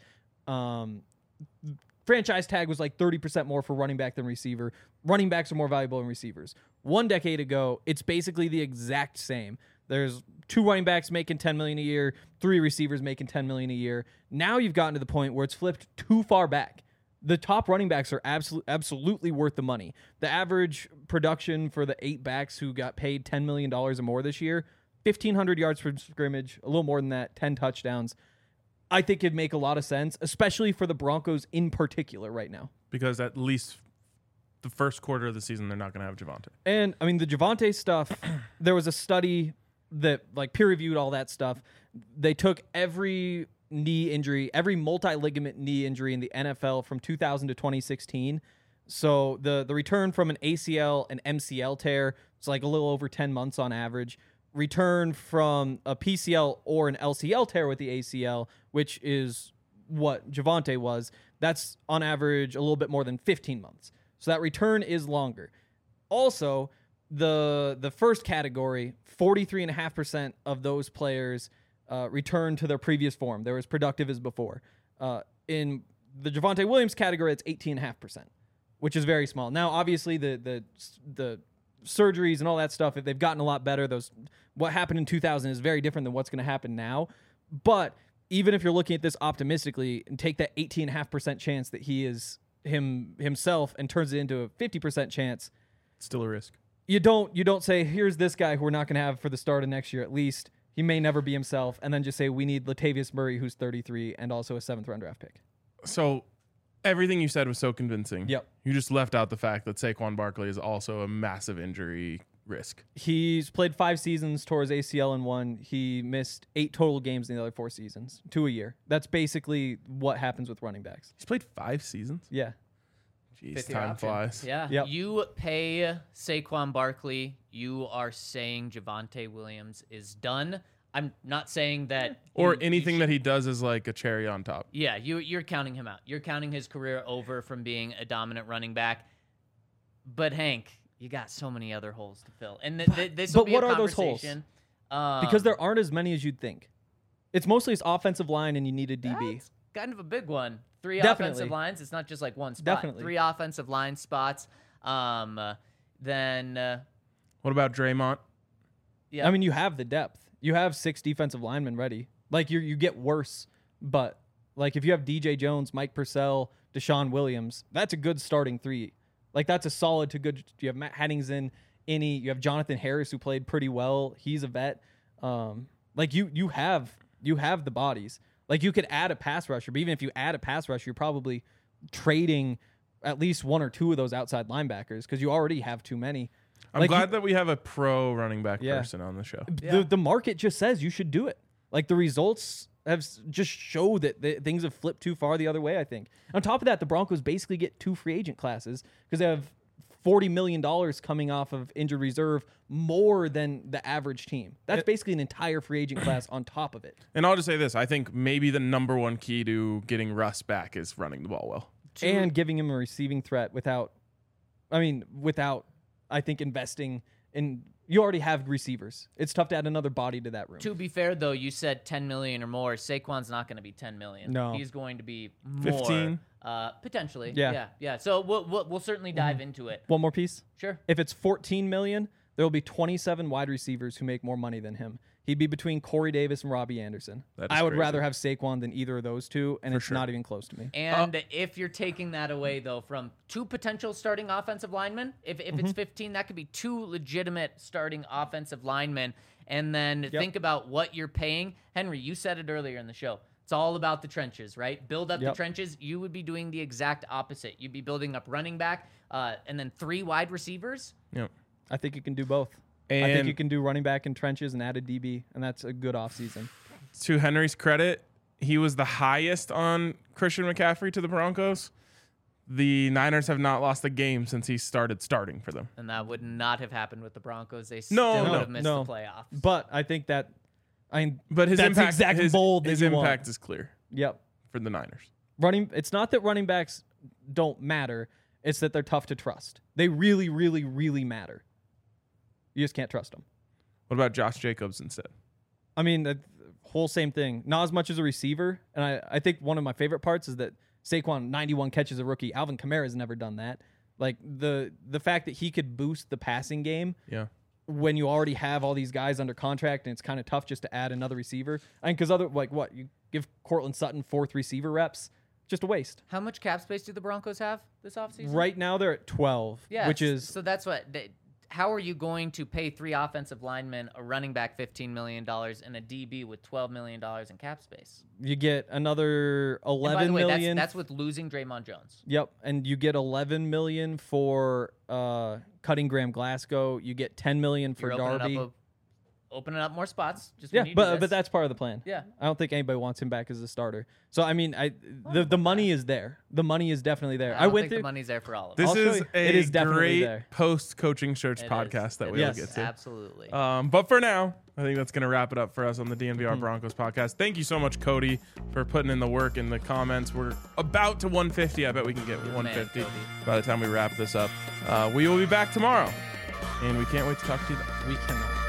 Speaker 4: Franchise tag was like 30% more for running back than receiver. Running backs are more valuable than receivers. 1 decade ago, it's basically the exact same. There's 2 running backs making $10 million a year, 3 receivers making $10 million a year. Now you've gotten to the point where it's flipped too far back. The top running backs are absolutely worth the money. The average production for the 8 backs who got paid $10 million or more this year, 1,500 yards per scrimmage, a little more than that, 10 touchdowns. I think it'd make a lot of sense, especially for the Broncos in particular right now.
Speaker 2: Because at least the first quarter of the season, they're not going to have Javonte.
Speaker 4: And, I mean, the Javonte stuff, there was a study that, like, peer-reviewed all that stuff. They took every knee injury, every multi-ligament knee injury in the NFL from 2000 to 2016. So the return from an ACL and MCL tear, it's like a little over 10 months on average. Return from a PCL or an LCL tear with the ACL, which is what Javonte was, that's on average a little bit more than 15 months. So that return is longer. Also, the first category, 43.5% of those players returned to their previous form. They were as productive as before. In the Javonte Williams category, it's 18.5%, which is very small. Now, obviously, the surgeries and all that stuff, if they've gotten a lot better, what happened in 2000 is very different than what's going to happen now. But even if you're looking at this optimistically and take that 18.5% chance that he is himself and turns it into a 50% chance,
Speaker 2: It's still a risk.
Speaker 4: you don't say, here's this guy who we're not going to have for the start of next year at least. He may never be himself, and then just say we need Latavius Murray, who's 33 and also a 7th-round draft pick.
Speaker 2: So everything you said was so convincing.
Speaker 4: Yep.
Speaker 2: You just left out the fact that Saquon Barkley is also a massive injury risk.
Speaker 4: He's played 5 seasons, tore his ACL in 1. He missed 8 total games in the other 4 seasons, 2 a year. That's basically what happens with running backs.
Speaker 2: He's played 5 seasons?
Speaker 4: Yeah.
Speaker 2: Jeez,
Speaker 3: 5th-year
Speaker 2: time
Speaker 3: option.
Speaker 2: flies.
Speaker 3: Yeah.
Speaker 4: Yep.
Speaker 3: You pay Saquon Barkley, you are saying Javonte Williams is done. I'm not saying that
Speaker 2: Or anything that he does is like a cherry on top.
Speaker 3: Yeah, you're counting him out. You're counting his career over from being a dominant running back. But Hank, you got so many other holes to fill, and this will
Speaker 4: but
Speaker 3: be
Speaker 4: what
Speaker 3: a
Speaker 4: are those holes?
Speaker 3: conversation.
Speaker 4: Because there aren't as many as you'd think. It's mostly his offensive line, and you need a DB.
Speaker 3: That's kind of a big one. 3
Speaker 4: Definitely.
Speaker 3: offensive lines. It's not just like one spot.
Speaker 4: Definitely.
Speaker 3: 3 offensive line spots. Then
Speaker 2: What about Draymond?
Speaker 3: yeah,
Speaker 4: I mean, you have the depth. You have 6 defensive linemen ready. Like, you get worse, but like if you have DJ Jones, Mike Purcell, Deshaun Williams, that's a good starting 3. Like, that's a solid to good. You have Matt Henningsen, you have Jonathan Harris, who played pretty well. He's a vet. Like you have the bodies. Like, you could add a pass rusher, but even if you add a pass rusher, you're probably trading at least 1 or 2 of those outside linebackers because you already have too many.
Speaker 2: I'm
Speaker 4: Like,
Speaker 2: glad that we have a pro running back
Speaker 4: Yeah.
Speaker 2: person on the show.
Speaker 4: The market just says you should do it. Like, the results just show that things have flipped too far the other way, I think. On top of that, the Broncos basically get 2 free agent classes because they have $40 million coming off of injured reserve, more than the average team. That's basically an entire free agent class on top of it.
Speaker 2: And I'll just say this. I think maybe the number one key to getting Russ back is running the ball well.
Speaker 4: And giving him a receiving threat without, I think, investing in You already have receivers. It's tough to add another body to that room.
Speaker 3: To be fair, though, you said 10 million or more. Saquon's not going to be 10 million.
Speaker 4: No.
Speaker 3: He's going to be more.
Speaker 2: 15?
Speaker 3: Potentially.
Speaker 4: Yeah.
Speaker 3: Yeah. So we'll certainly dive into it.
Speaker 4: One more piece.
Speaker 3: Sure.
Speaker 4: If it's 14 million, there will be 27 wide receivers who make more money than him. He'd be between Corey Davis and Robbie Anderson.
Speaker 2: That is
Speaker 4: I would
Speaker 2: crazy.
Speaker 4: rather have Saquon than either of those two, and it's
Speaker 2: sure.
Speaker 4: not even close to me.
Speaker 3: And if you're taking that away, though, from 2 potential starting offensive linemen, if it's 15, that could be 2 legitimate starting offensive linemen. And then think about what you're paying. Henry, you said it earlier in the show. It's all about the trenches, right? Build up the trenches. You would be doing the exact opposite. You'd be building up running back and then 3 wide receivers.
Speaker 2: Yep.
Speaker 4: I think you can do both.
Speaker 2: And
Speaker 4: I think you can do running back in trenches and add a DB, and that's a good offseason.
Speaker 2: to Henry's credit, he was the highest on Christian McCaffrey to the Broncos. The Niners have not lost a game since he started starting for them.
Speaker 3: And that would not have happened with the Broncos. They
Speaker 2: No,
Speaker 3: still
Speaker 2: no,
Speaker 3: would have missed
Speaker 4: no.
Speaker 3: the playoffs.
Speaker 4: But I think that
Speaker 2: But his
Speaker 4: that's
Speaker 2: impact,
Speaker 4: the exact
Speaker 2: his,
Speaker 4: mold that
Speaker 2: his
Speaker 4: you want.
Speaker 2: impact is clear
Speaker 4: Yep.
Speaker 2: for the Niners.
Speaker 4: It's not that running backs don't matter. It's that they're tough to trust. They really, really, really matter. You just can't trust them.
Speaker 2: What about Josh Jacobs instead?
Speaker 4: I mean, the whole same thing. Not as much as a receiver. And I think one of my favorite parts is that Saquon, 91 catches a rookie. Alvin Kamara's never done that. Like, the fact that he could boost the passing game
Speaker 2: Yeah.
Speaker 4: when you already have all these guys under contract and it's kind of tough just to add another receiver. I mean, because you give Cortland Sutton 4th receiver reps, just a waste.
Speaker 3: How much cap space do the Broncos have this offseason?
Speaker 4: Right now they're at 12,
Speaker 3: Yeah,
Speaker 4: which is
Speaker 3: so that's what. How are you going to pay 3 offensive linemen, a running back $15 million, and a DB with $12 million in cap space?
Speaker 4: you get another
Speaker 3: And by
Speaker 4: 11
Speaker 3: the way,
Speaker 4: million.
Speaker 3: that's with losing Draymond Jones.
Speaker 4: Yep, and you get 11 million for cutting Graham Glasgow. You get 10 million for
Speaker 3: You're
Speaker 4: Darby.
Speaker 3: opening up more spots. Just
Speaker 4: Yeah,
Speaker 3: when you do
Speaker 4: but
Speaker 3: this.
Speaker 4: that's part of the plan.
Speaker 3: Yeah.
Speaker 4: I don't think anybody wants him back as a starter. So I mean, the money is there. The money is definitely there.
Speaker 3: I don't
Speaker 4: went
Speaker 3: think
Speaker 4: through.
Speaker 3: the money's there for all of
Speaker 2: This
Speaker 3: us.
Speaker 4: I'll show
Speaker 2: is
Speaker 4: you.
Speaker 2: a
Speaker 4: It is definitely
Speaker 2: great
Speaker 4: there.
Speaker 2: post-coaching search
Speaker 3: It
Speaker 2: podcast
Speaker 3: is.
Speaker 2: that
Speaker 3: It
Speaker 2: we will
Speaker 3: is.
Speaker 2: get to.
Speaker 3: Absolutely.
Speaker 2: But for now, I think that's going to wrap it up for us on the
Speaker 4: Mm-hmm.
Speaker 2: DNVR Broncos podcast. Thank you so much, Cody, for putting in the work in the comments. We're about to 150. I bet we can get 150
Speaker 3: Cody.
Speaker 2: by the time we wrap this up. We will be back tomorrow, and we can't wait to talk to you then.
Speaker 4: We cannot.